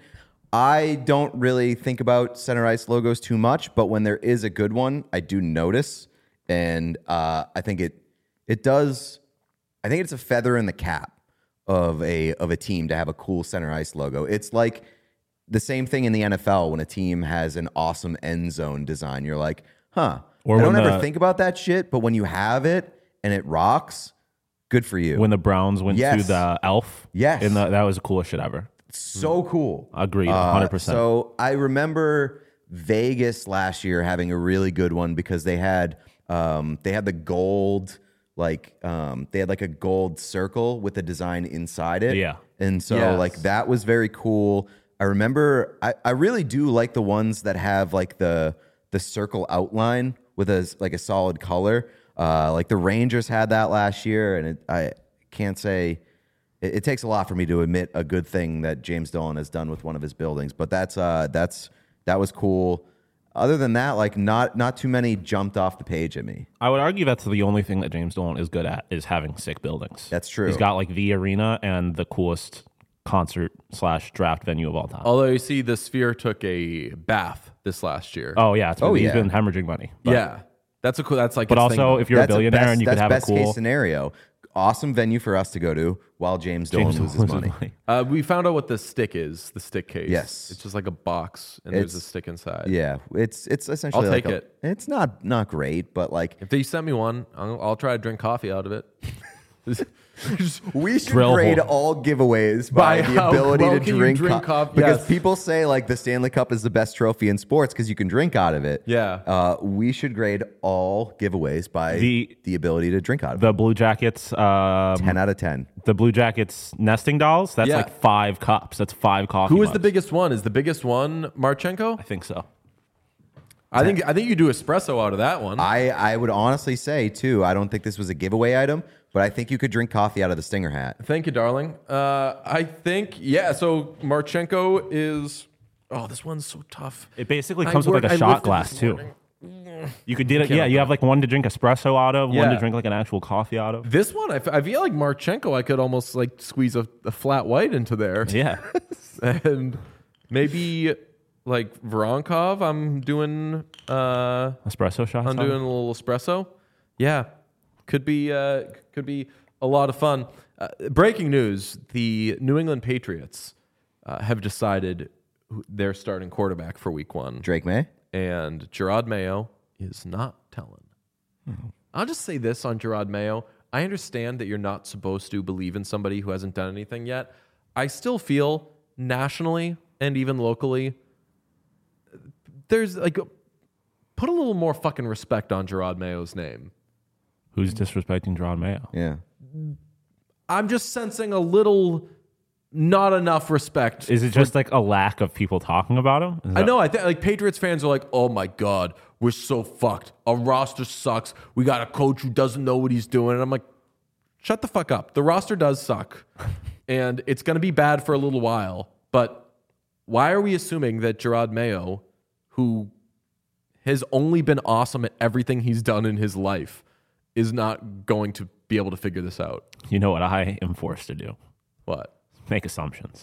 I don't really think about center ice logos too much, but when there is a good one, I do notice, and uh, I think it it does. I think it's a feather in the cap of a of a team to have a cool center ice logo. It's like the same thing in the N F L when a team has an awesome end zone design. You're like, huh. Or I don't when ever the- think about that shit, but when you have it and it rocks, good for you. When the Browns went to Yes. the Elf, Yes. in the, that was the coolest shit ever. So cool. Agreed, Uh, one hundred percent. So I remember Vegas last year having a really good one because they had um, they had the gold like um, they had like a gold circle with the design inside it. Yeah. And so Yes. like that was very cool. I remember I, I really do like the ones that have like the the circle outline with a like a solid color. Uh, like the Rangers had that last year, and it, I can't say it, it takes a lot for me to admit a good thing that James Dolan has done with one of his buildings. But that's uh, that's that was cool. Other than that, like not not too many jumped off the page at me. I would argue that's the only thing that James Dolan is good at is having sick buildings. That's true. He's got like the arena and the coolest concert slash draft venue of all time. Oh, Although you see, the Sphere took a bath this last year. yeah, it's Oh, he's yeah. been hemorrhaging money. But, yeah, that's a cool. That's like. but its also thing. if you're a That's billionaire best, and you could that's have a best cool case scenario. Awesome venue for us to go to while James Dolan James loses Dolan money. Uh, we found out what the stick is. The stick case. Yes. it's just like a box, and there's a It's- stick inside. Yeah, it's it's essentially. I'll like take a- it. It's not not great, but like If they send me one, I'll, I'll try to drink coffee out of it. we should Drill grade hole. all giveaways by, By the how ability well to can you drink, drink co- coffee? because Yes. people say like the Stanley Cup is the best trophy in sports because you can drink out of it. Yeah. uh, we should grade all giveaways by the, The- ability to drink out of The Blue Jackets, um, it. Ten out of ten. the Blue Jackets nesting dolls. That's Yeah. like five cups. That's five coffee. Who is the mugs. biggest one? Is the biggest one Marchenko? I think so. I think I think you do espresso out of that one. I I would honestly say too. I don't think this was a giveaway item, but I think you could drink coffee out of the Stinger hat. Thank you, darling. Uh, I think yeah. So Marchenko is. Oh, this one's so tough. It basically I comes with worked- like a I shot lifted glass this too. morning. You could do it. can't Yeah, you open have like one to drink espresso out of, one Yeah. to drink like an actual coffee out of. This one, I, f- I feel like Marchenko. I could almost like squeeze a, a flat white into there, Yeah. and maybe like Voronkov. I'm doing. Uh, Espresso shots. I'm out doing of? a little espresso. Yeah, could be uh, could be a lot of fun. Uh, breaking news: the New England Patriots uh, have decided who- their starting quarterback for Week One, Drake May. and Gerard Mayo is not telling. I'll just say this on Gerard Mayo: I understand that you're not supposed to believe in somebody who hasn't done anything yet. I still feel nationally and even locally, there's like put a little more fucking respect on Gerard Mayo's name. Who's disrespecting Gerard Mayo? Yeah. I'm just sensing a little not enough respect. Is it just like a lack of people talking about him? Is I that- know. I think like Patriots fans are like, oh my God, we're so fucked. Our roster sucks. We got a coach who doesn't know what he's doing. And I'm like, shut the fuck up. The roster does suck. And it's going to be bad for a little while. But why are we assuming that Gerard Mayo, who has only been awesome at everything he's done in his life, is not going to be able to figure this out? You know what I am forced to do? What? Make assumptions.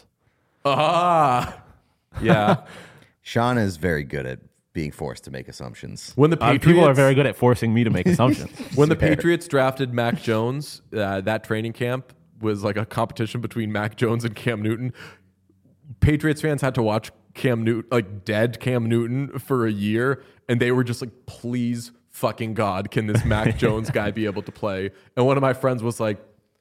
Ah, yeah. Sean is very good at being forced to make assumptions. When the Uh, Patriots, people are very good at forcing me to make assumptions. when the Patriots drafted Mac Jones, uh, that training camp was like a competition between Mac Jones and Cam Newton. Patriots fans had to watch Cam Newton, like dead Cam Newton, for a year, and they were just like, please fucking God, can this Mac Jones guy be able to play? And one of my friends was like,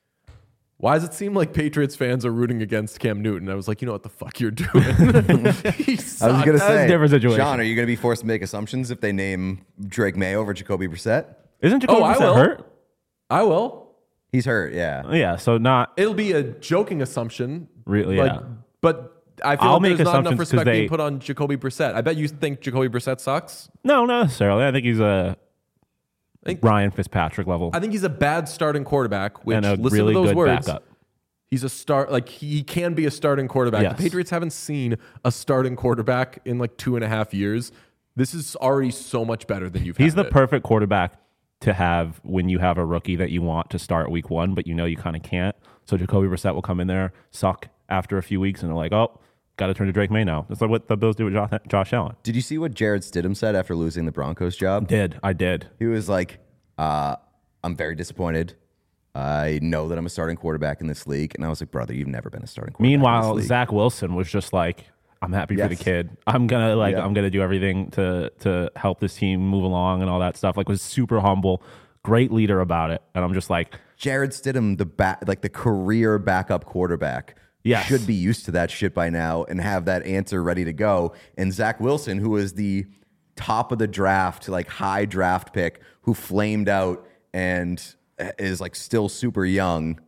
why does it seem like Patriots fans are rooting against Cam Newton? I was like, you know what the fuck you're doing. He I was sucked. going to say, a different situation. Sean, are you going to be forced to make assumptions if they name Drake May over Jacoby Brissett? Isn't Jacoby Oh, I Brissett will. hurt? I will. He's hurt, yeah. Yeah, so not It'll be a joking assumption. Really, like, yeah. But I feel I'll like make there's not enough assumptions 'cause respect they- being put on Jacoby Brissett. I bet you think Jacoby Brissett sucks. no, not necessarily. I think he's a think- Ryan Fitzpatrick level I think he's a bad starting quarterback, which, and a listen really to those good words, backup. he's a start. Like, he can be a starting quarterback. Yes. The Patriots haven't seen a starting quarterback in like two and a half years. This is already so much better than you've He's had the it. perfect quarterback to have when you have a rookie that you want to start week one, but you know you kind of can't. So Jacoby Brissett will come in there, suck after a few weeks, and they're like, oh, got to turn to Drake May now. That's like what the Bills do with Josh, Josh Allen. Did you see what Jared Stidham said after losing the Broncos job? Did. I did. He was like, uh, I'm very disappointed. I know that I'm a starting quarterback in this league. And I was like, brother, you've never been a starting quarterback in Meanwhile, this league. Zach Wilson was just like, I'm happy for the Yes. kid. I'm gonna like Yeah. I'm gonna do everything to to help this team move along and all that stuff. Like was super humble, great leader about it. And I'm just like, Jared Stidham, the ba- like the career backup quarterback, Yes. should be used to that shit by now and have that answer ready to go. And Zach Wilson, who is the top of the draft, like high draft pick, who flamed out and is like still super young,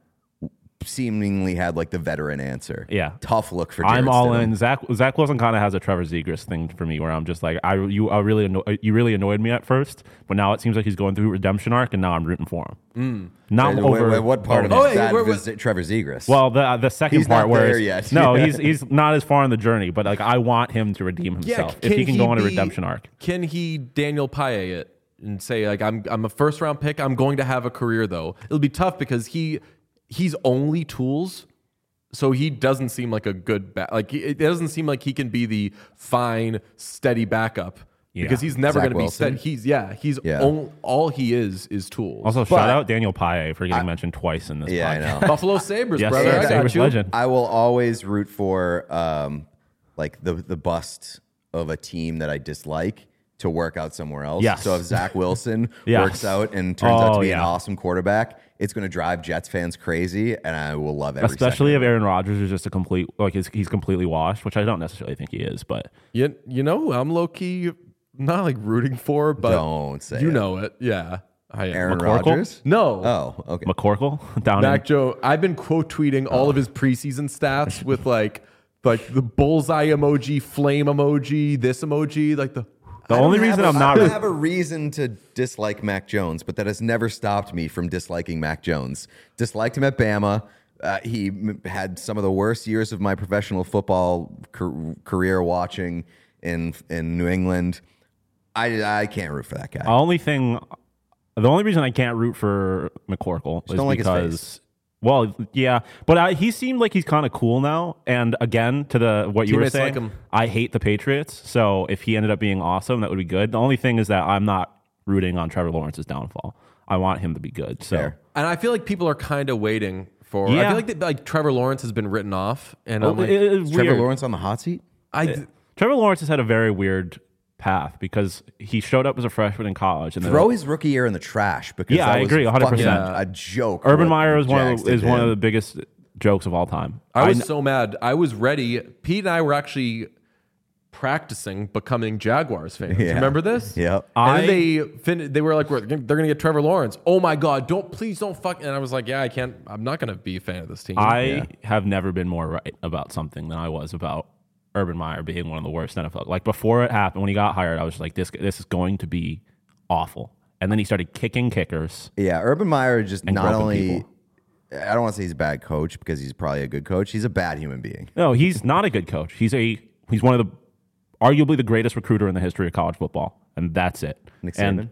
seemingly had like the veteran answer. Yeah. Tough look for Jared I'm all Stidham. in. Zach Zach Wilson kind of has a Trevor Zegras thing for me, where I'm just like, I you I really anno- you really annoyed me at first, but now it seems like he's going through a redemption arc, and now I'm rooting for him. Not Wait, over wait, what part of Oh, it hey, is that wait, was Trevor Zegras? Well, the the second He's part not where there it's- yet. no, Yeah. he's he's not as far on the journey, but like I want him to redeem himself if he can go on a be- redemption arc. Can he Daniel Paye it and say like I'm I'm a first round pick. I'm going to have a career though. It'll be tough because he he's only tools, so he doesn't seem like a good back. Like he- it doesn't seem like he can be the fine steady backup Yeah. because he's never Zach going to be Wilson? steady. He's yeah. He's Yeah. on- all he is is tools. Also, But- shout out Daniel Paye for getting mentioned twice in this. yeah, I podcast. know. Buffalo Sabres, Yes, brother. sir. I got Sabres you. legend. I will always root for um, like the the bust of a team that I dislike to work out somewhere else. Yes. So if Zach Wilson Yes. works out and turns out to Oh, be an yeah. awesome quarterback, it's going to drive Jets fans crazy, and I will love every Especially if second. Aaron Rodgers is just a complete like he's, he's completely washed, which I don't necessarily think he is, but You, you know, I'm low key not like rooting for, but Don't say you it. know it. Yeah, I am. Aaron McCorkle? Rodgers. No. Oh, okay. McCorkle down Mac in Joe, I've been quote tweeting all of his preseason stats with like like the bullseye emoji, flame emoji, this emoji, like the the I only don't have reason a- I'm not I re- don't have a reason to dislike Mac Jones, but that has never stopped me from disliking Mac Jones. Disliked him at Bama. Uh, he m- had some of the worst years of my professional football car- career watching in in New England. I I can't root for that guy. The only thing, the only reason I can't root for McCorkle is don't like his because, face. well, yeah, but I, he seemed like he's kind of cool now. And again, to the what you were Teammates saying, like him. I hate the Patriots. So if he ended up being awesome, that would be good. The only thing is that I'm not rooting on Trevor Lawrence's downfall. I want him to be good. So Fair. and I feel like people are kind of waiting for. I Yeah. feel like that, like Trevor Lawrence has been written off, and Oh, I'm like, it- it's Is Trevor weird. Lawrence on the hot seat? I Trevor Lawrence has had a very weird path because he showed up as a freshman in college and then Throw his rookie year in the trash because Yeah, that I was agree, one hundred fucking percent. a joke. Urban what Meyer is the one Jags of the, did is to one of him. the biggest jokes of all time. I was kn- so mad. I was ready. Pete and I were actually practicing becoming Jaguars fans. Yeah. Remember this? Yep. And I- then they fin- they were like, we're, they're going to get Trevor Lawrence. Oh my God, don't, please don't fuck. And I was like, yeah, I can't, I'm not going to be a fan of this team. I Yeah. have never been more right about something than I was about Urban Meyer being one of the worst N F L. Like before it happened, when he got hired, I was like, this this is going to be awful. And then he started kicking kickers. Yeah, Urban Meyer just And not groping only. people. I don't want to say he's a bad coach because he's probably a good coach. He's a bad human being. No, he's not a good coach. He's a he's one of the arguably the greatest recruiter in the history of college football, and that's it. Nick Saban. And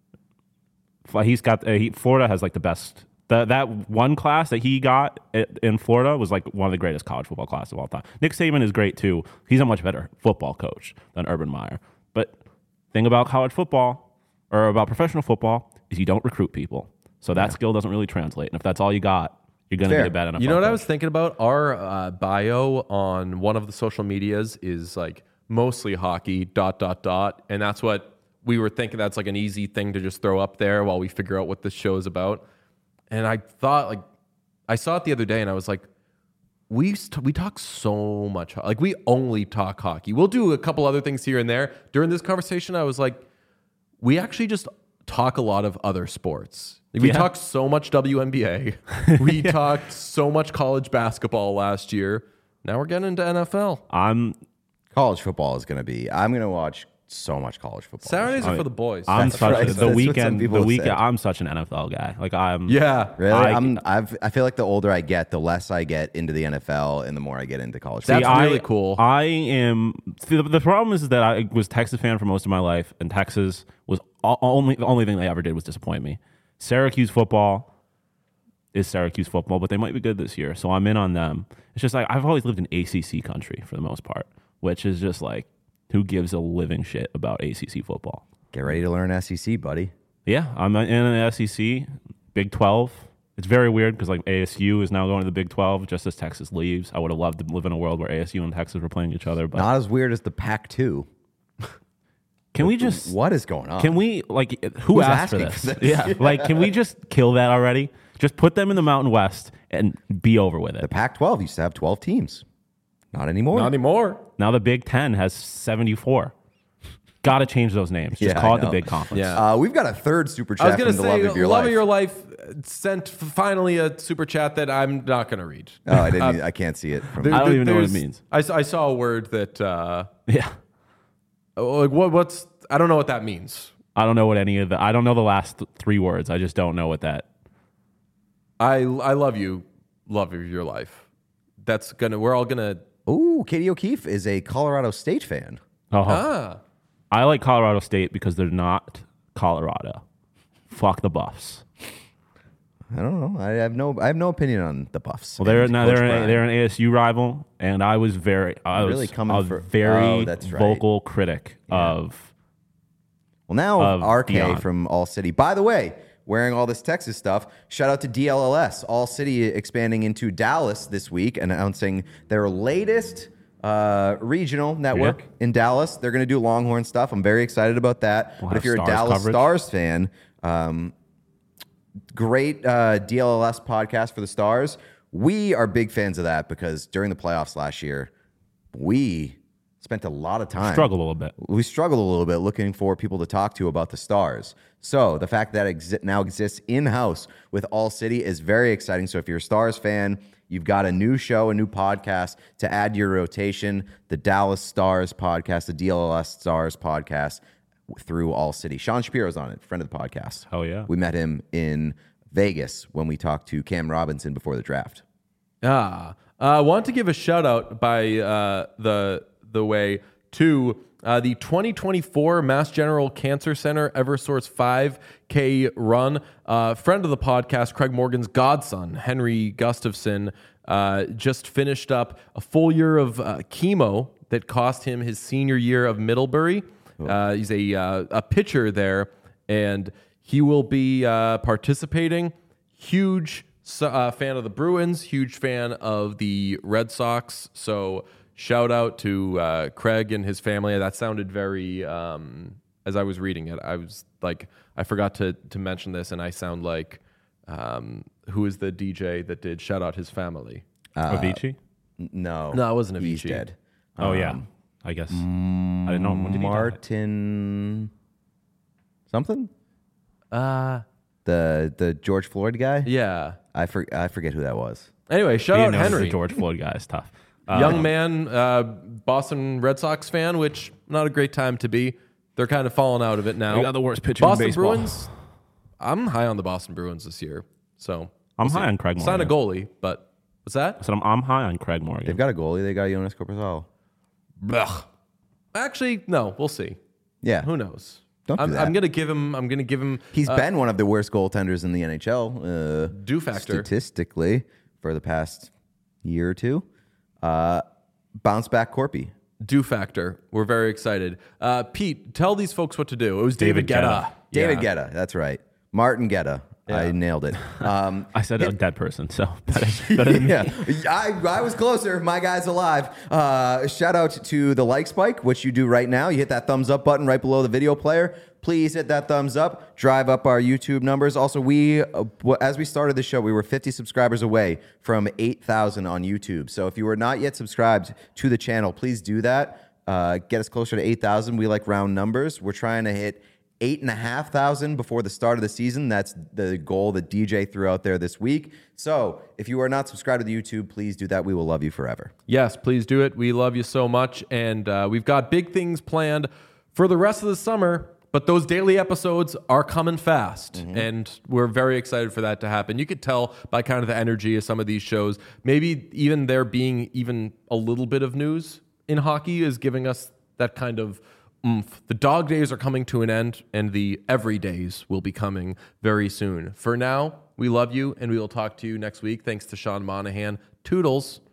f- he's got uh, he, Florida has like the best. The, that one class that he got at, in Florida was like one of the greatest college football classes of all time. Nick Saban is great too. He's a much better football coach than Urban Meyer. But thing about college football or about professional football is you don't recruit people, so that skill doesn't really translate. And if that's all you got, you're going to Fair. be a bad N F L You know what I coach. was thinking about? Our uh, bio on one of the social medias is like mostly hockey, dot, dot, dot. And that's what we were thinking. That's like an easy thing to just throw up there while we figure out what this show is about. And I thought, like, I saw it the other day and I was like, we st- we talk so much. Like, we only talk hockey. We'll do a couple other things here and there. During this conversation, I was like, we actually just talk a lot of other sports. Like, we Yeah. talked so much W N B A. We talked so much college basketball last year. Now we're getting into N F L. I'm College football is going to be. I'm going to watch so much college football. Saturdays are mean, for the boys. I'm That's such right. the That's what weekend. some people The have weekend. said. I'm such an N F L guy. Like I'm. yeah. Really, I- I'm. I've. I feel like the older I get, the less I get into the N F L, and the more I get into college. That's football. I- really cool. I am. See, the, the problem is that I was a Texas fan for most of my life, and Texas was o- only the only thing they ever did was disappoint me. Syracuse football is Syracuse football, but they might be good this year, so I'm in on them. It's just like I've always lived in A C C country for the most part, which is just like who gives a living shit about A C C football? Get ready to learn S E C, buddy. Yeah, I'm in the S E C, Big twelve. It's very weird because like A S U is now going to the Big twelve just as Texas leaves. I would have loved to live in a world where A S U and Texas were playing each other, but Not as weird as the Pac two. can we just What is going on? can we like who Who's asked for asking this? for this? Yeah, like can we just kill that already? Just put them in the Mountain West and be over with The it. Pac twelve used to have twelve teams. Not anymore. Not anymore. Now the Big Ten has seventy-four. Got to change those names. Just Yeah, call I it the know. Big Conference. Yeah. Uh, we've got a third super I was chat going from to the say, love of your love life. of your life uh, sent f- finally a super chat that I'm not going to read. Oh, I didn't. I can't see it from. There- I don't there- even know what it there's- means. I, s- I saw a word that, uh, Yeah. like, what, what's, I don't know what that means. I don't know what any of the. I don't know the last th- three words. I just don't know what that. I, I love you, love of your life. That's going to, we're all going to, Ooh, Katie O'Keefe is a Colorado State fan. Oh, ah. I like Colorado State because they're not Colorado. Fuck the Buffs. I don't know. I have no. I have no opinion on the Buffs. Well, they're And now Coach they're an, Brian. they're an A S U rival, and I was very I You're was really coming a for- very Oh, that's right. vocal critic of. Well, now of R K Dion. from All City. By the way, wearing all this Texas stuff. Shout out to D L L S. All City expanding into Dallas this week, announcing their latest uh, regional network Yeah. in Dallas. They're going to do Longhorn stuff. I'm very excited about that. We'll but if have you're a Stars Dallas coverage. Stars fan, um, great uh, D L L S podcast for the Stars. We are big fans of that because during the playoffs last year, we spent a lot of time Struggled a little bit. we struggled a little bit looking for people to talk to about the Stars. So the fact that it exi- now exists in-house with All City is very exciting. So if you're a Stars fan, you've got a new show, a new podcast to add to your rotation, the Dallas Stars podcast, the D L L S Stars podcast through All City. Sean Shapiro's on it, friend of the podcast. Hell yeah. We met him in Vegas when we talked to Cam Robinson before the draft. Ah, I uh, want to give a shout out by uh, the the way to uh, the twenty twenty-four Mass General Cancer Center Eversource five K run. Uh, friend of the podcast, Craig Morgan's godson, Henry Gustafson, uh, just finished up a full year of uh, chemo that cost him his senior year of Middlebury. Uh, he's a uh, a pitcher there, and he will be uh, participating. Huge uh, fan of the Bruins, huge fan of the Red Sox. So shout out to uh, Craig and his family. That sounded very, um, as I was reading it, I was like, I forgot to to mention this, and I sound like, um, who is the D J that did shout out his family? Uh, Avicii? No. No, it wasn't He's Avicii. dead. Oh, yeah. Um, I guess. I didn't know. When did he die? Martin something? Uh, The the George Floyd guy? yeah. I for, I forget who that was. Anyway, shout Being out known as Henry. the George Floyd guy is tough. Uh, Young man, uh, Boston Red Sox fan, which not a great time to be. They're kind of falling out of it now. They got the worst pitcher in Boston baseball. Bruins. I'm high on the Boston Bruins this year. So I'm we'll high see. on Craig Sign a Morgan. goalie, but what's that? So I'm, I'm high on Craig Morgan. They've got a goalie. They got Jonas Corposalo. Blech. Actually, no. We'll see. Yeah. Who knows? Don't do I'm, that. I'm gonna give him. I'm gonna give him. He's uh, been one of the worst goaltenders in the N H L. Uh, Do factor. statistically for the past year or two. Uh, bounce back Corpy. do factor. We're very excited. Uh, Pete, tell these folks what to do. It was David, David Guetta. Guetta. David Yeah. Guetta. That's right. Martin Guetta. I Yeah. nailed it. Um, I said a dead person, so better, better than me. yeah, I, I was closer. My guy's alive. Uh, shout out to the like spike, which you do right now. You hit that thumbs up button right below the video player. Please hit that thumbs up. Drive up our YouTube numbers. Also, we uh, as we started the show, we were fifty subscribers away from eight thousand on YouTube. So if you are not yet subscribed to the channel, please do that. Uh, get us closer to eight thousand. We like round numbers. We're trying to hit eight and a half thousand before the start of the season. That's the goal that D J threw out there this week. So if you are not subscribed to the YouTube, please do that. We will love you forever. Yes, please do it. We love you so much. And uh, we've got big things planned for the rest of the summer, but those daily episodes are coming fast. And we're very excited for that to happen. You could tell by kind of the energy of some of these shows. Maybe even there being even a little bit of news in hockey is giving us that kind of oomph. The dog days are coming to an end, and the every days will be coming very soon. For now, we love you, and we will talk to you next week. Thanks to Sean Monahan. Toodles.